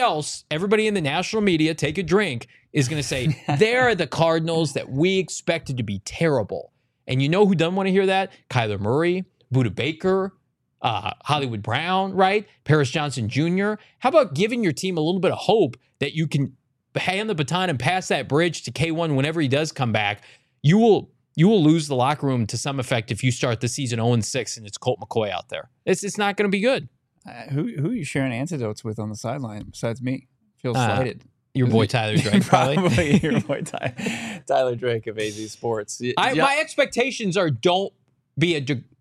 S1: in the national media, take a drink, is going to say, they're the Cardinals that we expected to be terrible. And you know who doesn't want to hear that? Kyler Murray, Budda Baker, Hollywood Brown, right? Paris Johnson Jr. How about giving your team a little bit of hope that you can hand the baton and pass that bridge to K1 whenever he does come back? You will lose the locker room to some effect if you start the season 0-6 and it's Colt McCoy out there. It's not going to be good.
S2: Who are you sharing antidotes with on the sideline besides me? Feels slighted.
S1: Your boy Tyler Drake, probably.
S2: Probably your boy Tyler Drake of AZ Sports.
S1: My expectations are don't be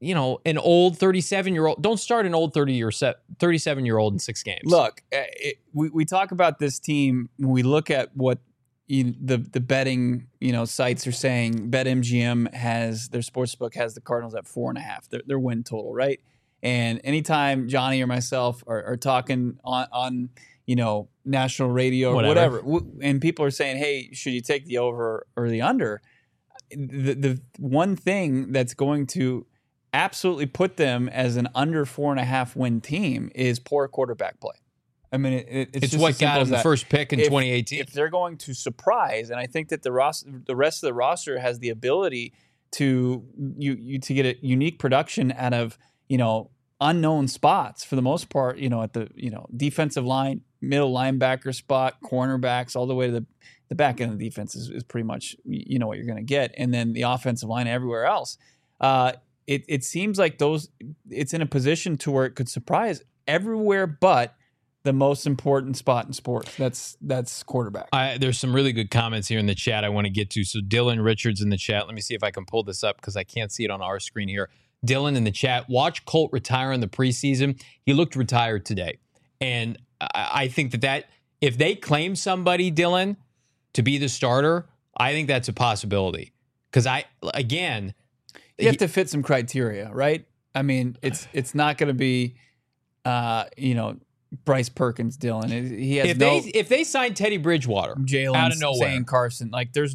S1: an old 37-year-old. Don't start an old 37-year-old in 6 games.
S2: Look, we talk about this team when we look at what the betting sites are saying. BetMGM has their sportsbook has the Cardinals at 4.5. Their win total, right? And anytime Johnny or myself are talking on national radio or whatever, and people are saying, hey, should you take the over or the under? The one thing that's going to absolutely put them as an under 4.5 win team is poor quarterback play. I mean, it's just
S1: what got them the first pick in 2018.
S2: If they're going to surprise, and I think that the rest of the roster has the ability to get a unique production out of unknown spots for the most part, at the defensive line, middle linebacker spot, cornerbacks, all the way to the back end of the defense is pretty much what you're going to get, and then the offensive line everywhere else. It seems like it's in a position to where it could surprise everywhere but the most important spot in sports. That's quarterback.
S1: There's some really good comments here in the chat I want to get to. So Dylan Richards in the chat. Let me see if I can pull this up because I can't see it on our screen here. Dylan in the chat. Watch Colt retire in the preseason. He looked retired today. And I think that if they claim somebody, Dylan, to be the starter, I think that's a possibility. Because you
S2: have to fit some criteria, right? I mean, it's not going to be, Bryce Perkins, Dylan. He has
S1: if they sign Teddy Bridgewater
S2: Jalen
S1: out of nowhere,
S2: Zane Carson, like there's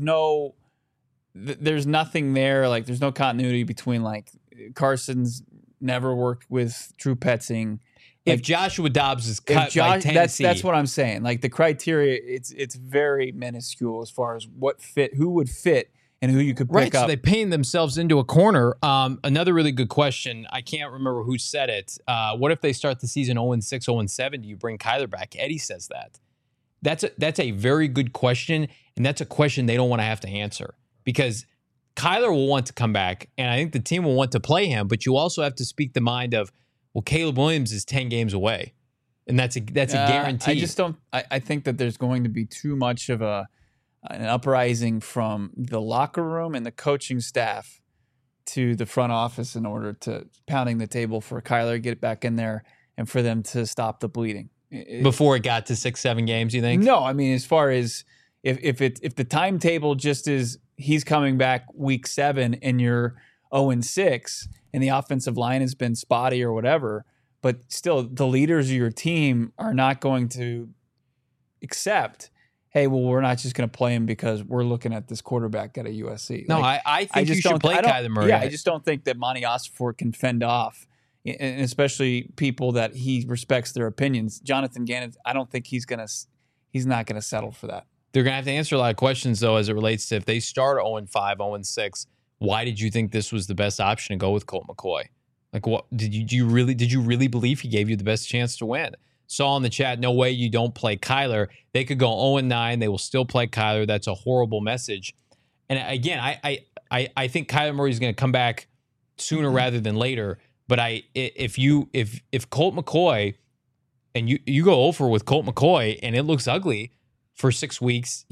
S2: nothing there. Like there's no continuity between like Carson's never worked with Drew Petzing.
S1: If Joshua Dobbs is cut by Tennessee,
S2: that's what I'm saying. Like the criteria, it's very minuscule as far as who would fit and who you could pick
S1: right,
S2: up.
S1: so they paint themselves into a corner. Another really good question. I can't remember who said it. What if they start the season 0-6, 0-7? Do you bring Kyler back? Eddie says that. That's a very good question, and that's a question they don't want to have to answer because Kyler will want to come back, and I think the team will want to play him, but you also have to speak the mind of, well, Caleb Williams is 10 games away, and that's a guarantee.
S2: I just don't. I think that there's going to be too much of an uprising from the locker room and the coaching staff to the front office in order to pounding the table for Kyler to get back in there and for them to stop the bleeding.
S1: Before it got to 6-7 games, you think?
S2: No, I mean, as far as if the timetable just is he's coming back week 7 and you're 0-6 and the offensive line has been spotty or whatever, but still the leaders of your team are not going to accept, hey, well, we're not just going to play him because we're looking at this quarterback at a USC.
S1: No, I think you should play Kyler Murray.
S2: Yeah, I just don't think that Monty Ossenfort can fend off, and especially people that he respects their opinions. Jonathan Gannon, I don't think he's not going to settle for that.
S1: They're going to have to answer a lot of questions, though, as it relates to if they start 0-5, 0-6, why did you think this was the best option to go with Colt McCoy? Like, what did you really believe he gave you the best chance to win? Saw in the chat, no way you don't play Kyler. They could go 0-9. They will still play Kyler. That's a horrible message. And again, I think Kyler Murray is going to come back sooner rather than later. But if Colt McCoy and you go over with Colt McCoy and it looks ugly for 6 weeks,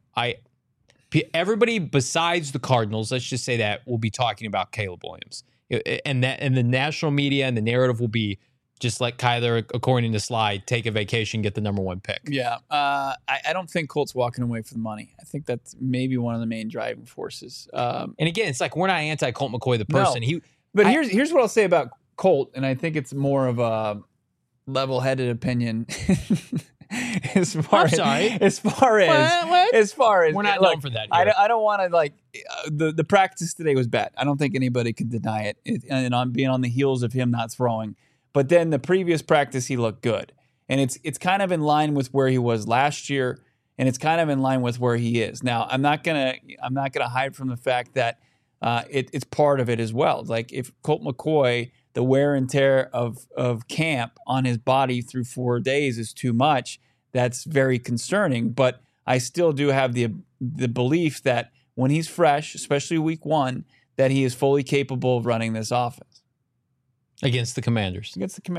S1: everybody besides the Cardinals, let's just say that, will be talking about Caleb Williams, and the national media and the narrative will be just let Kyler, according to Slide, take a vacation, get the number 1 pick.
S2: Yeah, I don't think Colt's walking away for the money. I think that's maybe one of the main driving forces.
S1: And again, it's like we're not anti Colt McCoy the person.
S2: No. Here's what I'll say about Colt, and I think it's more of a level-headed opinion. As far as
S1: we're not known for that here.
S2: I don't want to the practice today was bad. I don't think anybody could deny it. And on being on the heels of him not throwing, but then the previous practice he looked good, and it's kind of in line with where he was last year, and it's kind of in line with where he is now. I'm not gonna hide from the fact that it's part of it as well. Like if Colt McCoy, the wear and tear of camp on his body through 4 days is too much, that's very concerning. But I still do have the belief that when he's fresh, especially week 1, that he is fully capable of running this offense.
S1: Against the Commanders.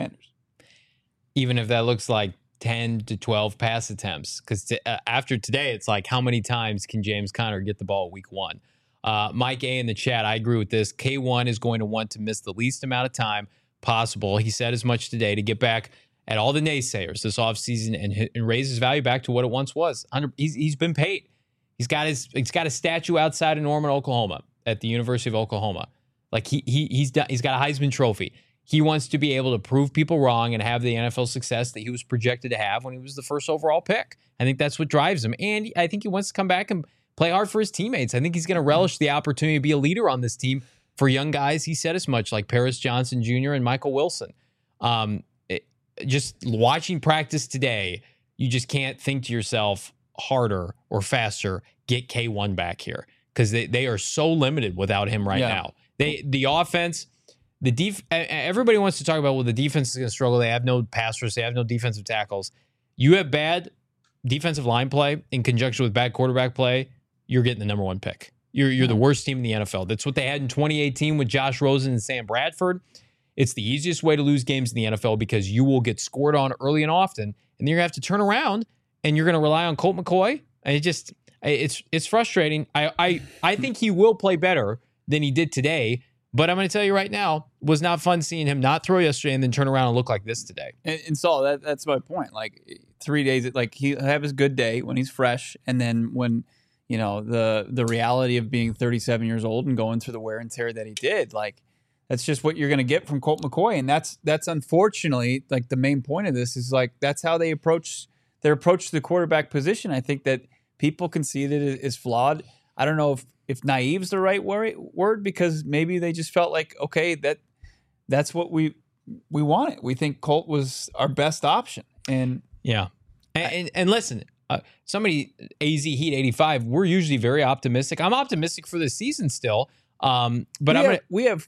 S1: Even if that looks like 10 to 12 pass attempts. Because after today, it's like, how many times can James Conner get the ball week 1? Mike A in the chat, I agree with this. K1 is going to want to miss the least amount of time possible. He said as much today to get back at all the naysayers this offseason and raise his value back to what it once was. He's been paid. He's got a statue outside of Norman, Oklahoma, at the University of Oklahoma. Like he's got a Heisman Trophy. He wants to be able to prove people wrong and have the NFL success that he was projected to have when he was the first overall pick. I think that's what drives him. And I think he wants to come back and play hard for his teammates. I think he's going to relish the opportunity to be a leader on this team for young guys. He said as much, like Paris Johnson Jr. and Michael Wilson. Just watching practice today, you just can't think to yourself harder or faster, get K1 back here, because they are so limited without him right now. The offense, everybody wants to talk about, well, the defense is going to struggle. They have no pass rush. They have no defensive tackles. You have bad defensive line play in conjunction with bad quarterback play, you're getting the number 1 pick. You're the worst team in the NFL. That's what they had in 2018 with Josh Rosen and Sam Bradford. It's the easiest way to lose games in the NFL because you will get scored on early and often, and then you're going to have to turn around and you're going to rely on Colt McCoy. And it's frustrating. I think he will play better than he did today, but I'm going to tell you right now, was not fun seeing him not throw yesterday and then turn around and look like this today.
S2: And Saul, that's my point. Like 3 days, like he'll have his good day when he's fresh, and then when the reality of being 37 years old and going through the wear and tear that he did, like that's just what you're going to get from Colt McCoy. And that's unfortunately, like the main point of this is like, that's how they approach the quarterback position. I think that people can see that it is flawed. I don't know if naive's the right word, because maybe they just felt like, okay, that's what we wanted. We think Colt was our best option. And
S1: yeah. And listen, somebody AZ Heat 85. We're usually very optimistic. I'm optimistic for the season still. But
S2: we have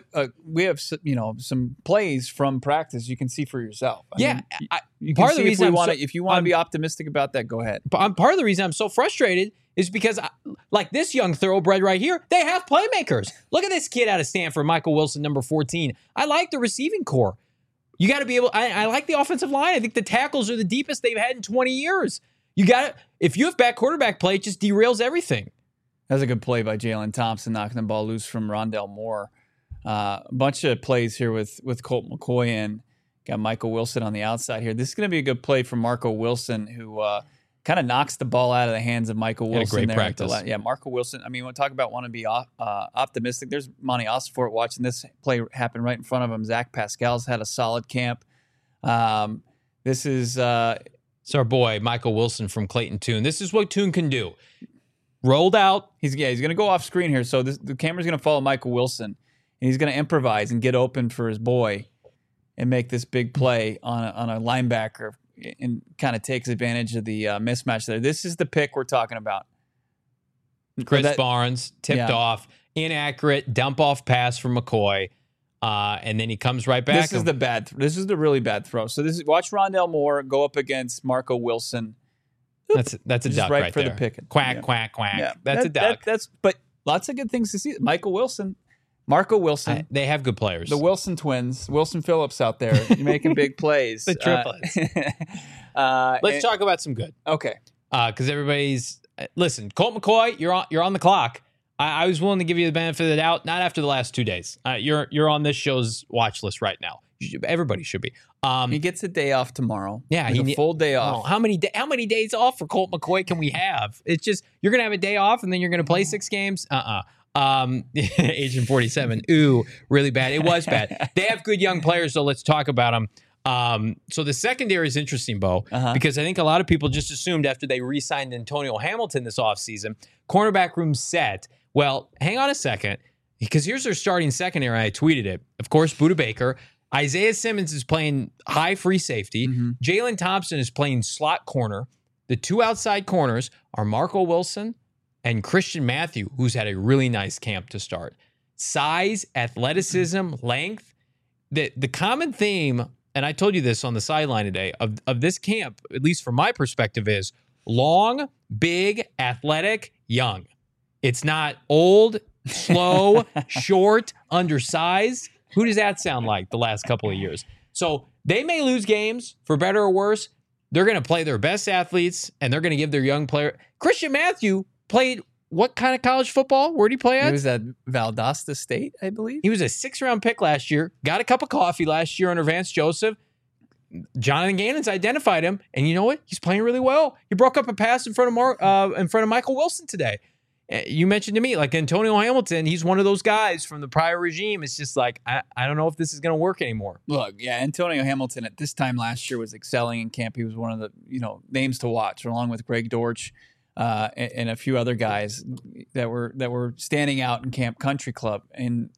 S2: some plays from practice you can see for yourself.
S1: Part of the reason
S2: if you want to be optimistic about that, go ahead.
S1: Part of the reason I'm so frustrated is because, like this young thoroughbred right here, they have playmakers. Look at this kid out of Stanford, Michael Wilson, number 14. I like the receiving core. You got to be able. I like the offensive line. I think the tackles are the deepest they've had in 20 years. You got to. If you have bad quarterback play, it just derails everything.
S2: That's a good play by Jalen Thompson, knocking the ball loose from Rondell Moore. A bunch of plays here with Colt McCoy and got Michael Wilson on the outside here. This is going to be a good play from Marco Wilson, who kind of knocks the ball out of the hands of Michael Wilson.
S1: Great practice.
S2: Marco Wilson. I mean, when we talk about want to be optimistic, there's Monty Ossenfort watching this play happen right in front of him. Zach Pascal's had a solid camp. This is
S1: it's our boy Michael Wilson from Clayton Tune. This is what Tune can do. Rolled out.
S2: He's going to go off screen here. So the camera's going to follow Michael Wilson, and he's going to improvise and get open for his boy and make this big play on a linebacker and kind of takes advantage of the mismatch there. This is the pick we're talking about.
S1: Chris Barnes tipped off, inaccurate dump off pass from McCoy, and then he comes right back.
S2: This is the really bad throw. So watch Rondell Moore go up against Marco Wilson.
S1: That's a duck right
S2: for
S1: there.
S2: The pick.
S1: Quack, quack, quack. Yeah. That's a duck.
S2: But lots of good things to see. Marco Wilson.
S1: They have good players.
S2: The Wilson twins. Wilson Phillips out there. You're making big plays.
S1: The triplets. Let's talk about some good.
S2: Okay.
S1: Because everybody's... Listen, Colt McCoy, you're on the clock. I was willing to give you the benefit of the doubt. Not after the last 2 days. You're on this show's watch list right now. Everybody should be.
S2: He gets a day off tomorrow.
S1: Yeah,
S2: a full day off.
S1: Oh, how many days off for Colt McCoy can we have? It's just you're gonna have a day off and then you're gonna play 6 games. Agent 47. Ooh, really bad. It was bad. They have good young players, so let's talk about them. So the secondary is interesting, Bo, because I think a lot of people just assumed after they re-signed Antonio Hamilton this offseason, cornerback room set. Well, hang on a second, because here's their starting secondary. I tweeted it. Of course, Budda Baker. Isaiah Simmons is playing high free safety. Jalen Thompson is playing slot corner. The 2 outside corners are Marco Wilson and Christian Matthew, who's had a really nice camp to start. Size, athleticism, length. The common theme, and I told you this on the sideline today, of this camp, at least from my perspective, is long, big, athletic, young. It's not old, slow, short, undersized. Who does that sound like the last couple of years? So they may lose games, for better or worse. They're going to play their best athletes, and they're going to give their young player. Christian Matthew played what kind of college football? Where did he play at?
S2: He was at Valdosta State, I believe.
S1: He was a 6th-round pick last year. Got a cup of coffee last year under Vance Joseph. Jonathan Gannon's identified him, and you know what? He's playing really well. He broke up a pass in front of Michael Wilson today. You mentioned to me, like Antonio Hamilton, he's one of those guys from the prior regime. It's just like, I don't know if this is going to work anymore.
S2: Look, yeah, Antonio Hamilton at this time last year was excelling in camp. He was one of the names to watch, along with Greg Dortch and a few other guys that were standing out in Camp Country Club. And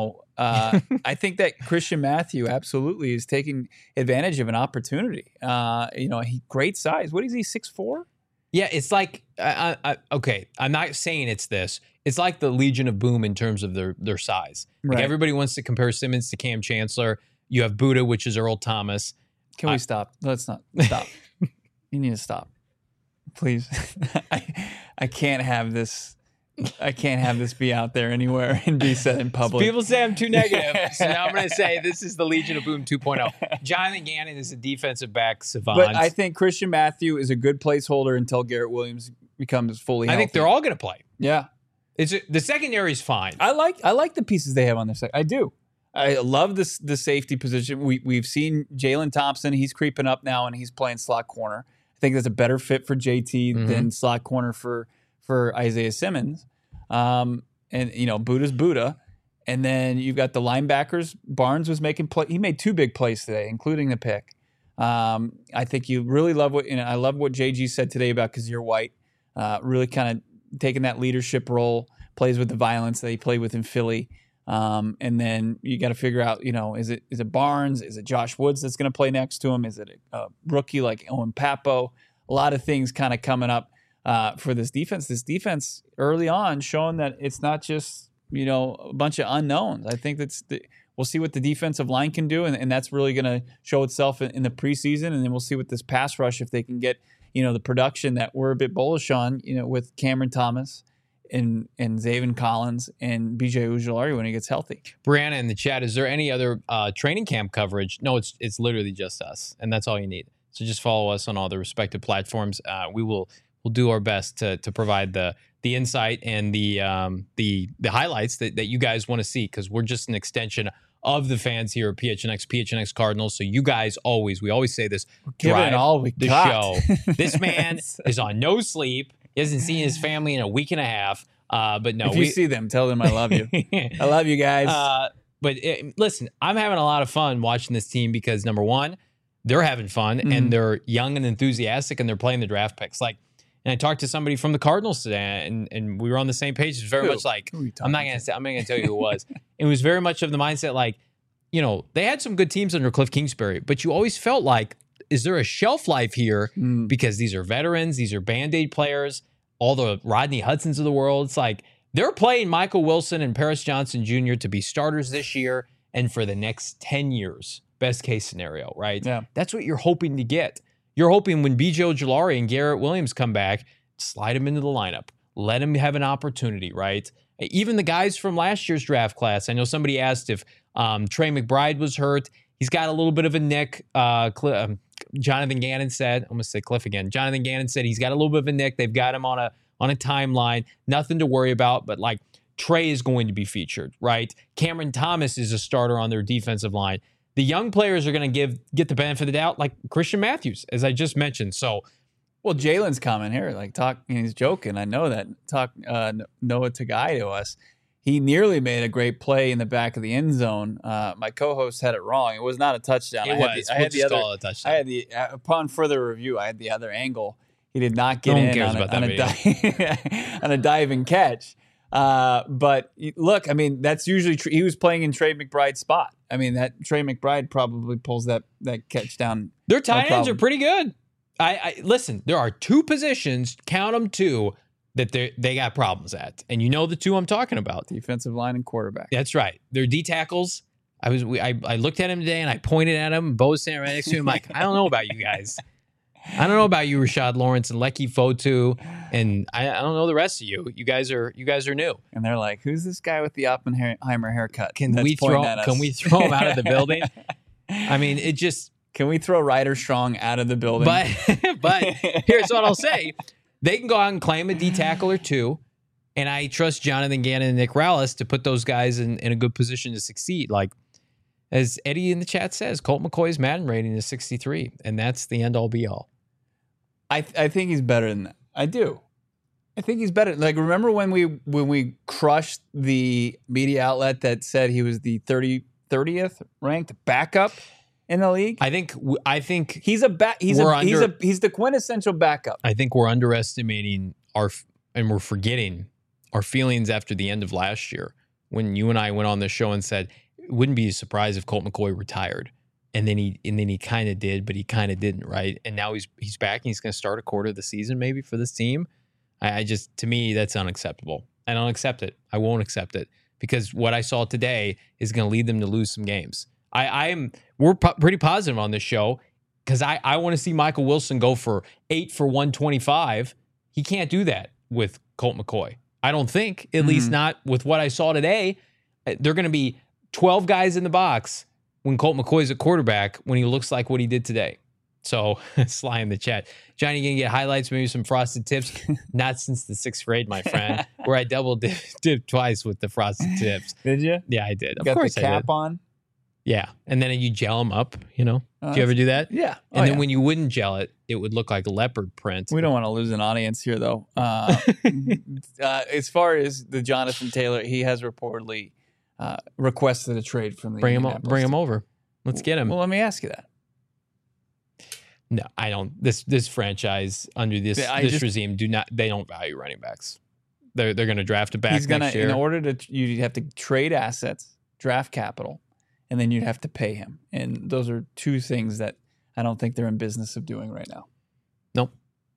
S2: I think that Christian Matthew absolutely is taking advantage of an opportunity. Great size. What is he? 6'4"?
S1: Yeah, it's like, okay, I'm not saying it's this. It's like the Legion of Boom in terms of their size. Like everybody wants to compare Simmons to Cam Chancellor. You have Budda, which is Earl Thomas.
S2: Can we stop? Let's not stop. You need to stop. Please. I can't have this. I can't have this be out there anywhere and be said in public.
S1: People say I'm too negative, so now I'm going to say this is the Legion of Boom 2.0. Jonathan Gannon is a defensive back savant.
S2: But I think Christian Matthew is a good placeholder until Garrett Williams becomes fully healthy.
S1: I think they're all going to play.
S2: Yeah.
S1: The secondary is fine.
S2: I like the pieces they have on their side. I do. I love the safety position. We've seen Jalen Thompson. He's creeping up now, and he's playing slot corner. I think that's a better fit for JT than slot corner for Isaiah Simmons. Budda's Budda. And then you've got the linebackers. Barnes was making play. He made 2 big plays today, including the pick. I think you really love I love what JG said today about Kazir White. Really kind of taking that leadership role, plays with the violence that he played with in Philly. And then you got to figure out, is it Barnes? Is it Josh Woods that's going to play next to him? Is it a rookie like Owen Papo? a lot of things kind of coming up for this defense. This defense early on showing that it's not just, a bunch of unknowns. I think we'll see what the defensive line can do, and that's really going to show itself in the preseason, and then we'll see what this pass rush, if they can get, the production that we're a bit bullish on, with Cameron Thomas and Zaven Collins and BJ Ojulari when he gets healthy.
S1: Brianna in the chat, is there any other training camp coverage? No, it's literally just us, and that's all you need. So just follow us on all the respective platforms. We'll do our best to provide the insight and the highlights that you guys want to see, because we're just an extension of the fans here at PHNX Cardinals. So you guys we always say this, drive
S2: all we
S1: the
S2: got.
S1: show. This man is on no sleep. He hasn't seen his family in a week and a half. But no,
S2: if you see them, tell them I love you. I love you guys.
S1: Listen, I'm having a lot of fun watching this team because, number one, they're having fun and they're young and enthusiastic and they're playing the draft picks. And I talked to somebody from the Cardinals today, and we were on the same page. It's very much like, I'm not going to tell you who it was. It was very much of the mindset they had some good teams under Cliff Kingsbury, but you always felt like, is there a shelf life here? Because these are veterans, these are Band-Aid players, all the Rodney Hudsons of the world. It's like they're playing Michael Wilson and Paris Johnson Jr. to be starters this year and for the next 10 years. Best case scenario, right?
S2: Yeah.
S1: That's what you're hoping to get. You're hoping when BJ Ojulari and Garrett Williams come back, slide them into the lineup. Let them have an opportunity, right? Even the guys from last year's draft class. I know somebody asked if Trey McBride was hurt. He's got a little bit of a nick. Jonathan Gannon said, I'm going to say Cliff again. Jonathan Gannon said he's got a little bit of a nick. They've got him on a timeline. Nothing to worry about, but Trey is going to be featured, right? Cameron Thomas is a starter on their defensive line. The young players are going to get the benefit of the doubt, like Christian Matthews, as I just mentioned. So,
S2: well, Jalen's comment here, he's joking. I know that. Noah Tagai to us. He nearly made a great play in the back of the end zone. My co-host had it wrong. It was not a touchdown.
S1: I had the other touchdown.
S2: I had upon further review, I had the other angle. He did not get in on a diving catch. But look, that's usually he was playing in Trey McBride's spot. That Trey McBride probably pulls that catch down.
S1: Their tight ends are pretty good. I listen, there are two positions, count them two, that they got problems at. And the two I'm talking about.
S2: Defensive line and quarterback.
S1: That's right. They're D tackles. I looked at him today and I pointed at him. Bo was standing right next to him like, I don't know about you guys. I don't know about you, Rashad Lawrence and Lecky Fotu, and I don't know the rest of you. You guys are new.
S2: And they're like, who's this guy with the Oppenheimer haircut?
S1: Can we throw him out of the building? It just.
S2: Can we throw Ryder Strong out of the building?
S1: But here's what I'll say. They can go out and claim a D tackle or two, and I trust Jonathan Gannon and Nick Rallis to put those guys in a good position to succeed. As Eddie in the chat says, Colt McCoy's Madden rating is 63, and that's the end-all be-all.
S2: I think he's better than that. I do. I think he's better. Remember when we crushed the media outlet that said he was the 30th ranked backup in the league?
S1: I think
S2: he's the quintessential backup.
S1: I think we're underestimating and we're forgetting our feelings after the end of last year when you and I went on the show and said it wouldn't be a surprise if Colt McCoy retired. And then he kind of did, but he kind of didn't, right? And now he's back and he's going to start a quarter of the season maybe for this team. To me, that's unacceptable. I don't accept it. I won't accept it because what I saw today is going to lead them to lose some games. We're pretty positive on this show because I want to see Michael Wilson go for 8 for 125. He can't do that with Colt McCoy. I don't think, at least not with what I saw today. They're going to be 12 guys in the box when Colt McCoy's a quarterback when he looks like what he did today. So, Sly in the chat. Johnny, you going to get highlights, maybe some frosted tips? Not since the 6th grade, my friend, where I double dipped twice with the frosted tips.
S2: Did you?
S1: Yeah, I did. Of
S2: Got
S1: course
S2: the cap on?
S1: Yeah. And then you gel them up, Do you ever do that?
S2: Yeah.
S1: And then when you wouldn't gel it, it would look like a leopard print.
S2: We don't want to lose an audience here, though. As far as the Jonathan Taylor, he has reportedly requested a trade from the
S1: Bring him over. Let's get him.
S2: Well, let me ask you that.
S1: No, I don't. This franchise under this regime they don't value running backs. They're going to draft a back next year.
S2: In order to, you have to trade assets, draft capital, and then you'd have to pay him. And those are two things that I don't think they're in business of doing right now.
S1: Nope.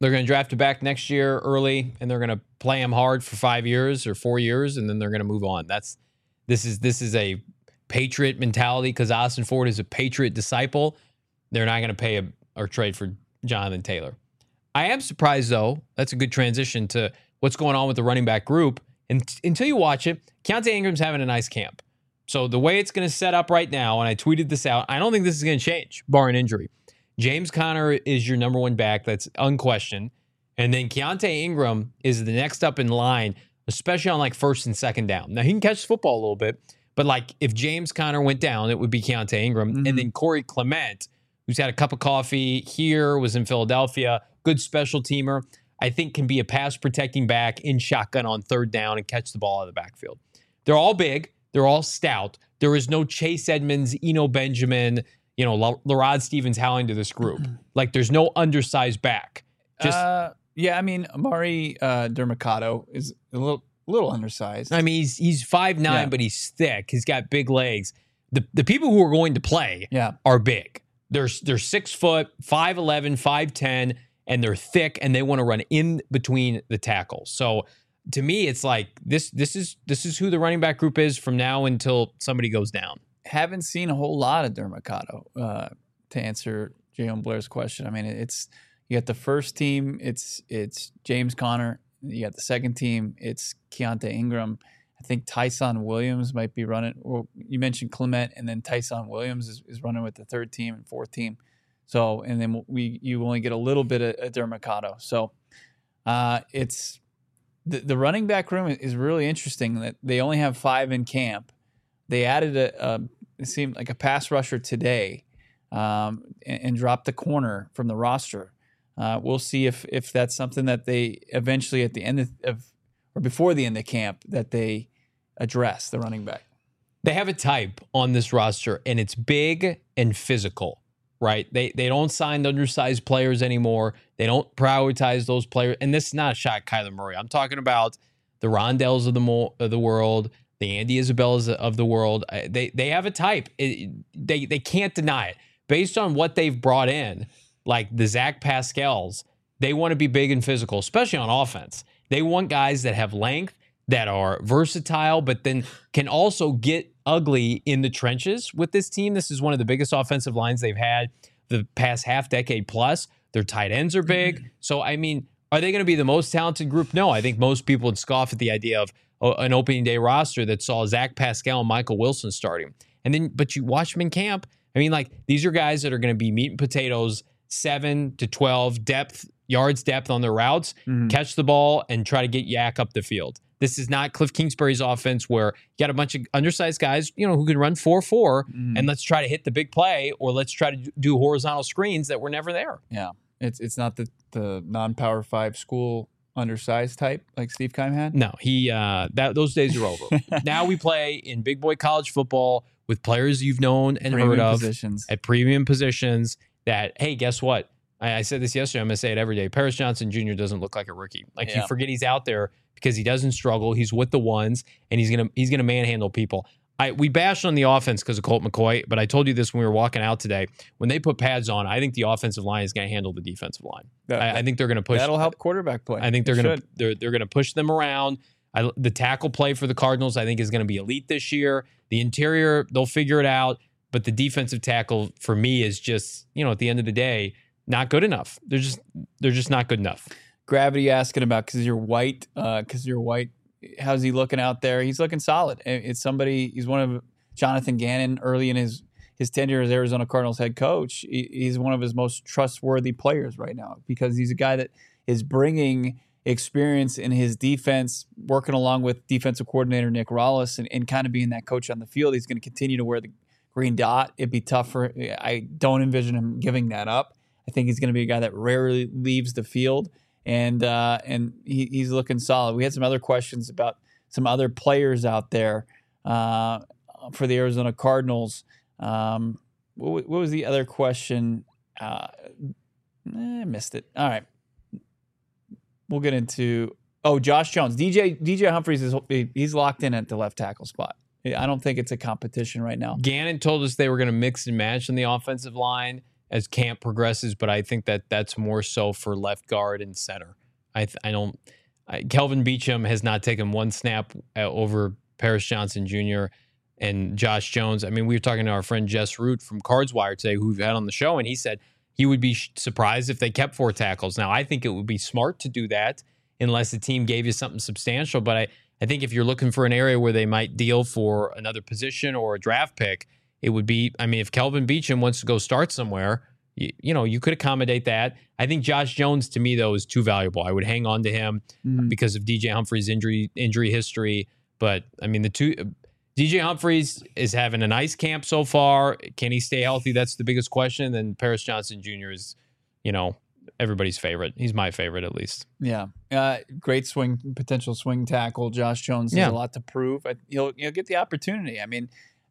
S1: They're going to draft a back next year early, and they're going to play him hard for 5 years or 4 years, and then they're going to move on. This is a Patriot mentality because Austin Ford is a Patriot disciple. They're not going to pay or trade for Jonathan Taylor. I am surprised, though. That's a good transition to what's going on with the running back group. And until you watch it, Keaontay Ingram's having a nice camp. So the way it's going to set up right now, and I tweeted this out, I don't think this is going to change, barring injury. James Conner is your number one back. That's unquestioned. And then Keaontay Ingram is the next up in line, especially on like first and second down. Now, he can catch the football a little bit, but like if James Conner went down, it would be Keaontay Ingram. Mm-hmm. And then Corey Clement, who's had a cup of coffee here, was in Philadelphia, good special teamer, I think can be a pass protecting back in shotgun on third down and catch the ball out of the backfield. They're all big. They're all stout. There is no Chase Edmonds, Eno Benjamin, LaRod Stevens-Howling to this group. Like there's no undersized back.
S2: Yeah, I mean, Amari Dermacado is a little undersized.
S1: I mean, he's 5'9", but he's thick. He's got big legs. The people who are going to play are big. They're 6 foot, 5'11", 5'10", and they're thick, and they want to run in between the tackles. So to me, it's like this is who the running back group is from now until somebody goes down.
S2: Haven't seen a whole lot of Dermacado to answer Jalen Blair's question. I mean, you got the first team, it's James Conner. You got the second team, it's Keaontay Ingram. I think Tyson Williams might be running. Well, you mentioned Clement, and then Tyson Williams is running with the third team and fourth team. So, and then you only get a little bit of Dermacado. So, it's the running back room is really interesting. That they only have 5 in camp. They added it seemed like a pass rusher today, and dropped the corner from the roster. We'll see if that's something that they eventually at the end of or before the end of camp that they address the running back.
S1: They have a type on this roster, and it's big and physical, right? They don't sign undersized players anymore. They don't prioritize those players. And this is not a shot at Kyler Murray. I'm talking about the Rondells of the world, the Andy Isabellas of the world. They have a type. They can't deny it. Based on what they've brought in, like the Zach Pascals, they want to be big and physical, especially on offense. They want guys that have length, that are versatile, but then can also get ugly in the trenches with this team. This is one of the biggest offensive lines they've had the past half decade plus. Their tight ends are big. So, I mean, are they going to be the most talented group? No, I think most people would scoff at the idea of an opening day roster that saw Zach Pascal and Michael Wilson starting. But you watch them in camp. I mean, like, these are guys that are going to be meat and potatoes, 7 to 12 yards depth on their routes, catch the ball, and try to get yak up the field. This is not Cliff Kingsbury's offense where you got a bunch of undersized guys, who can run 4-4, and let's try to hit the big play, or let's try to do horizontal screens that were never there.
S2: Yeah, it's not the non-Power 5 school undersized type like Steve Keim had.
S1: No, those days are over. Now we play in big boy college football with players you've known and heard of at premium positions. That, hey, guess what? I said this yesterday. I'm going to say it every day. Paris Johnson Jr. doesn't look like a rookie. You forget he's out there because he doesn't struggle. He's with the ones, and he's gonna manhandle people. We bashed on the offense because of Colt McCoy, but I told you this when we were walking out today. When they put pads on, I think the offensive line is going to handle the defensive line. I think they're going to push.
S2: That'll help quarterback play.
S1: I think they're going to push them around. The tackle play for the Cardinals, I think, is going to be elite this year. The interior, they'll figure it out, but the defensive tackle for me is just, at the end of the day, not good enough. They're just not good enough.
S2: Gravity asking about because you're white. How's he looking out there? He's looking solid. It's somebody. He's one of Jonathan Gannon early in his tenure as Arizona Cardinals head coach. He's one of his most trustworthy players right now because he's a guy that is bringing experience in his defense, working along with defensive coordinator Nick Rollis and kind of being that coach on the field. He's going to continue to wear the green dot. It'd be tough for. I don't envision him giving that up. I think he's going to be a guy that rarely leaves the field, and he's looking solid. We had some other questions about some other players out there for the Arizona Cardinals. What was the other question? I missed it. All right. We'll get into Josh Jones. DJ Humphries he's locked in at the left tackle spot. I don't think it's a competition right now.
S1: Gannon told us they were going to mix and match on the offensive line. as camp progresses, but I think that that's more so for left guard and center. Kelvin Beachum has not taken one snap over Paris Johnson Jr. and Josh Jones. I mean, we were talking to our friend Jess Root from Cards Wire today, who we've had on the show, and he said he would be surprised if they kept 4 tackles. Now, I think it would be smart to do that unless the team gave you something substantial, but I think if you're looking for an area where they might deal for another position or a draft pick, it would be, I mean, if Kelvin Beachum wants to go start somewhere, you could accommodate that. I think Josh Jones, to me, though, is too valuable. I would hang on to him because of DJ Humphries' injury history. But, I mean, DJ Humphries is having a nice camp so far. Can he stay healthy? That's the biggest question. And then Paris Johnson Jr. is, everybody's favorite. He's my favorite, at least.
S2: Yeah. Great potential swing tackle. Josh Jones has a lot to prove. He'll get the opportunity. I mean,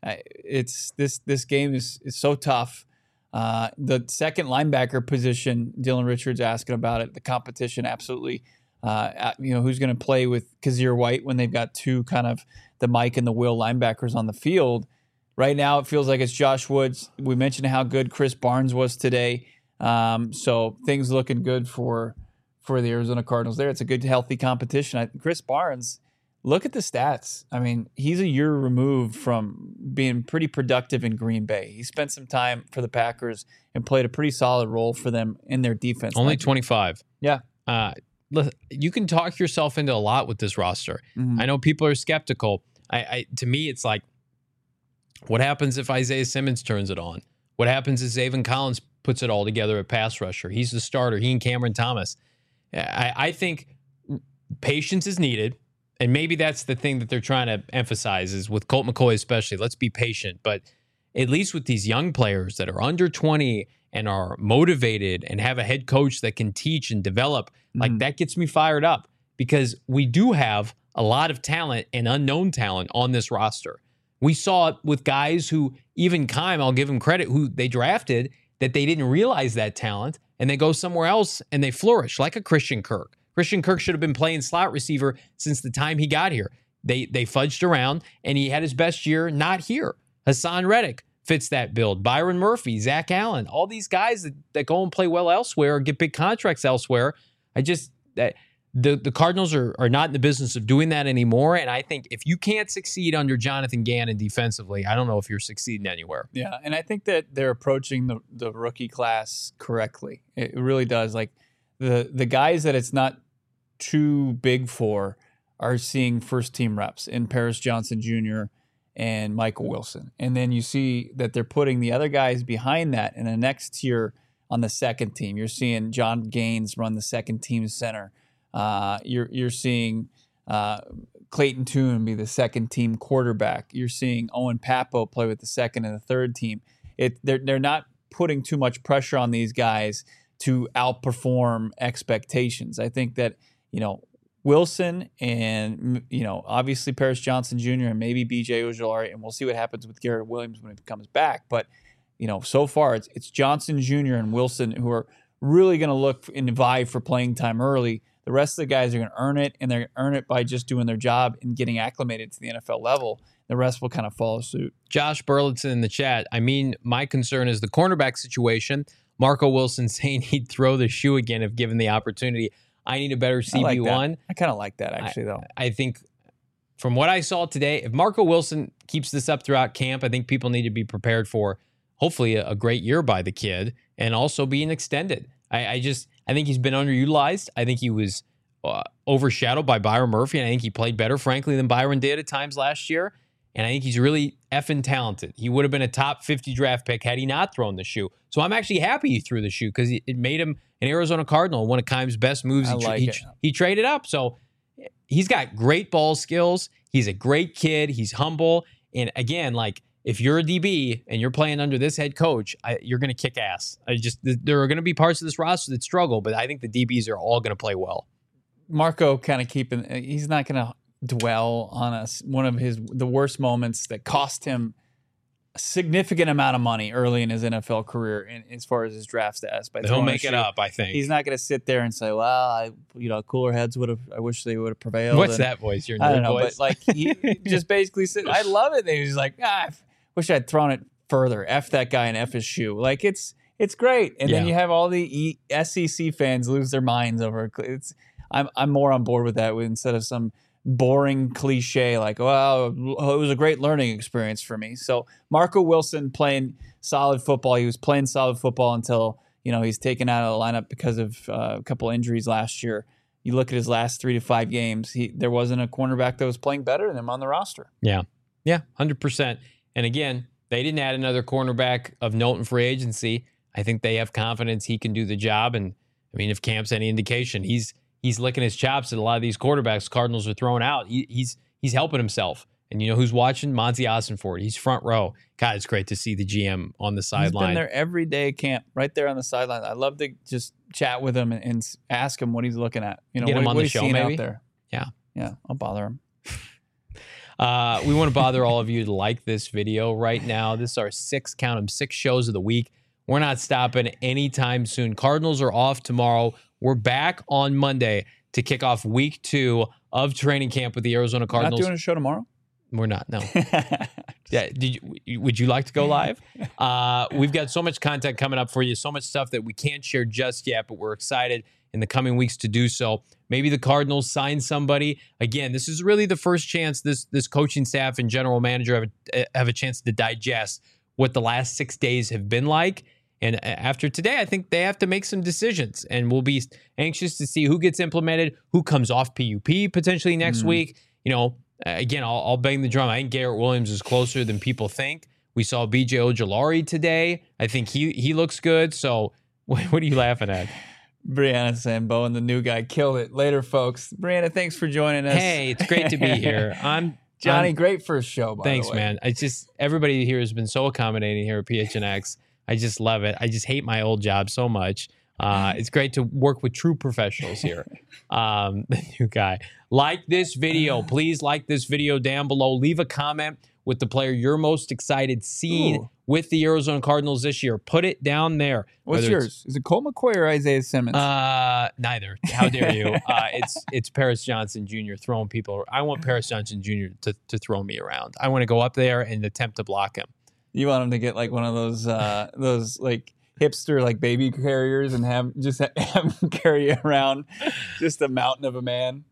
S2: this game is so tough. The second linebacker position, Dylan Richards asking about it. The competition, absolutely. Who's going to play with Kazir White when they've got 2 kind of the Mike and the Will linebackers on the field? Right now, it feels like it's Josh Woods. We mentioned how good Chris Barnes was today. So things looking good for the Arizona Cardinals there. It's a good, healthy competition. Chris Barnes, look at the stats. I mean, he's a year removed from being pretty productive in Green Bay. He spent some time for the Packers and played a pretty solid role for them in their defense.
S1: Only 25.
S2: Yeah.
S1: You can talk yourself into a lot with this roster. I know people are skeptical. To me, it's like, what happens if Isaiah Simmons turns it on? What happens if Zaven Collins puts it all together at pass rusher? He's the starter. He and Cameron Thomas. I think patience is needed. And maybe that's the thing that they're trying to emphasize is with Colt McCoy especially. Let's be patient. But at least with these young players that are under 20 and are motivated and have a head coach that can teach and develop, like that gets me fired up because we do have a lot of talent and unknown talent on this roster. We saw it with guys who, even Keim, I'll give him credit, who they drafted, that they didn't realize that talent, and they go somewhere else and they flourish, like a Christian Kirk. Christian Kirk should have been playing slot receiver since the time he got here. They fudged around, and he had his best year not here. Hassan Reddick fits that build. Byron Murphy, Zach Allen, all these guys that go and play well elsewhere or get big contracts elsewhere. The Cardinals are not in the business of doing that anymore, and I think if you can't succeed under Jonathan Gannon defensively, I don't know if you're succeeding anywhere.
S2: Yeah, and I think that they're approaching the rookie class correctly. It really does. Like the guys that it's not too big for are seeing first-team reps in Paris Johnson Jr. and Michael Wilson. And then you see that they're putting the other guys behind that in the next tier on the second team. You're seeing John Gaines run the second team center. You're seeing Clayton Tune be the second team quarterback. You're seeing Owen Pappo play with the second and the third team. They're not putting too much pressure on these guys to outperform expectations. I think that, Wilson and, obviously Paris Johnson Jr. and maybe B.J. Ojulari, and we'll see what happens with Garrett Williams when he comes back. But, so far it's Johnson Jr. and Wilson who are really going to look and vie for playing time early. The rest of the guys are going to earn it, and they're going to earn it by just doing their job and getting acclimated to the NFL level. The rest will kind of follow suit.
S1: Josh Burleson in the chat. I mean, my concern is the cornerback situation. Marco Wilson saying he'd throw the shoe again if given the opportunity. I need a better CB1.
S2: I kind of like that, actually, though.
S1: I think from what I saw today, if Marco Wilson keeps this up throughout camp, I think people need to be prepared for hopefully a great year by the kid and also being extended. I think he's been underutilized. I think he was overshadowed by Byron Murphy, and I think he played better, frankly, than Byron did at times last year. And I think he's really effing talented. He would have been a top 50 draft pick had he not thrown the shoe. So I'm actually happy he threw the shoe because it made him an Arizona Cardinal, one of Keim's best moves. He traded up. So he's got great ball skills. He's a great kid. He's humble. And again, like, if you're a DB and you're playing under this head coach, you're going to kick ass. There are going to be parts of this roster that struggle, but I think the DBs are all going to play well.
S2: Marco kind of he's not going to dwell on one of the worst moments that cost him a significant amount of money early in his NFL career as far as his draft status.
S1: He'll make it up, I think.
S2: He's not going to sit there and say, well, cooler heads I wish they would have prevailed.
S1: What's that voice? Your
S2: I don't know,
S1: voice?
S2: but like he just basically said, I love it. He was like, I wish I'd thrown it further. F that guy and F his shoe. Like it's It's great. And then
S1: Yeah.
S2: you have all the SEC fans lose their minds over it. I'm more on board with that instead of some boring cliche like, well, it was a great learning experience for me. So Marco Wilson playing solid football. He was playing solid football until, he's taken out of the lineup because of a couple injuries last year. You look at his last 3 to 5 games, there wasn't a cornerback that was playing better than him on the roster.
S1: Yeah. Yeah, 100%. And again, they didn't add another cornerback of note in free agency. I think they have confidence he can do the job. And I mean, if Camp's any indication, he's licking his chops at a lot of these quarterbacks Cardinals are throwing out. He's helping himself. And you know who's watching? Monty Ossenfort. He's front row. God, it's great to see the GM on the sideline.
S2: He's been there every day, Camp, right there on the sideline. I love to just chat with him and ask him what he's looking at.
S1: Get him on the show, maybe.
S2: Out there. Yeah, I'll bother him.
S1: We want to bother all of you to like this video right now. This is our 6 shows of the week. We're not stopping anytime soon. Cardinals are off tomorrow. We're back on Monday to kick off week 2 of training camp with the Arizona Cardinals.
S2: Not doing a show tomorrow?
S1: We're not, no. Yeah, would you like to go live? We've got so much content coming up for you, so much stuff that we can't share just yet, but we're excited in the coming weeks to do so. Maybe the Cardinals sign somebody. Again, this is really the first chance this coaching staff and general manager have a chance to digest what the last 6 days have been like. And after today, I think they have to make some decisions, and we'll be anxious to see who gets implemented, who comes off PUP potentially next week. Again, I'll bang the drum. I think Garrett Williams is closer than people think. We saw BJ Ojulari today. I think he looks good. So what are you laughing at?
S2: Brianna Sambo and the new guy killed it. Later, folks. Brianna, thanks for joining us.
S1: Hey, it's great to be here.
S2: Johnny, great first show, by
S1: thanks,
S2: the way.
S1: man. Everybody here has been so accommodating here at PHNX. I just love it. I just hate my old job so much. It's great to work with true professionals here. The new guy. Like this video. Please like this video down below. Leave a comment with the player you're most excited seeing with the Arizona Cardinals this year. Put it down there.
S2: What's yours? Is it Colt McCoy or Isaiah Simmons?
S1: Neither. How dare you? It's Paris Johnson Jr. throwing people. I want Paris Johnson Jr. to throw me around. I want to go up there and attempt to block him.
S2: You want him to get like one of those like hipster like baby carriers and have him carry around just a mountain of a man.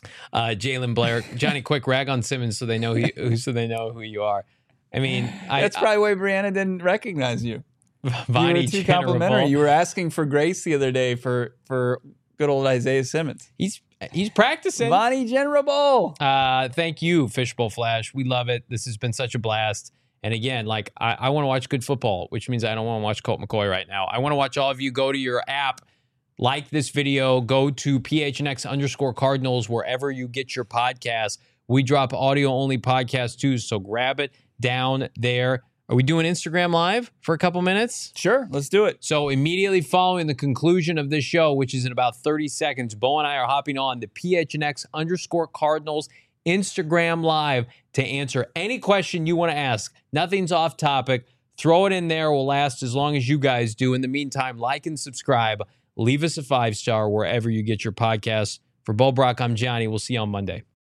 S1: Jalen Blair, Johnny, quick rag on Simmons so they know who you are. I mean,
S2: that's probably why Brianna didn't recognize you.
S1: Vonnie,
S2: you were too complimentary. You were asking for grace the other day for good old Isaiah Simmons.
S1: He's practicing.
S2: Vonnie Generable.
S1: Thank you, Fishbowl Flash. We love it. This has been such a blast. And again, like I want to watch good football, which means I don't want to watch Colt McCoy right now. I want to watch all of you. Go to your app, like this video, go to PHNX_Cardinals wherever you get your podcasts. We drop audio-only podcasts too, so grab it down there. Are we doing Instagram Live for a couple minutes?
S2: Sure, let's do it.
S1: So immediately following the conclusion of this show, which is in about 30 seconds, Bo and I are hopping on the PHNX_Cardinals Instagram Live to answer any question you want to ask. Nothing's off topic. Throw it in there. We'll last as long as you guys do. In the meantime, like and subscribe. Leave us a 5-star wherever you get your podcasts. For Bo Brock, I'm Johnny. We'll see you on Monday.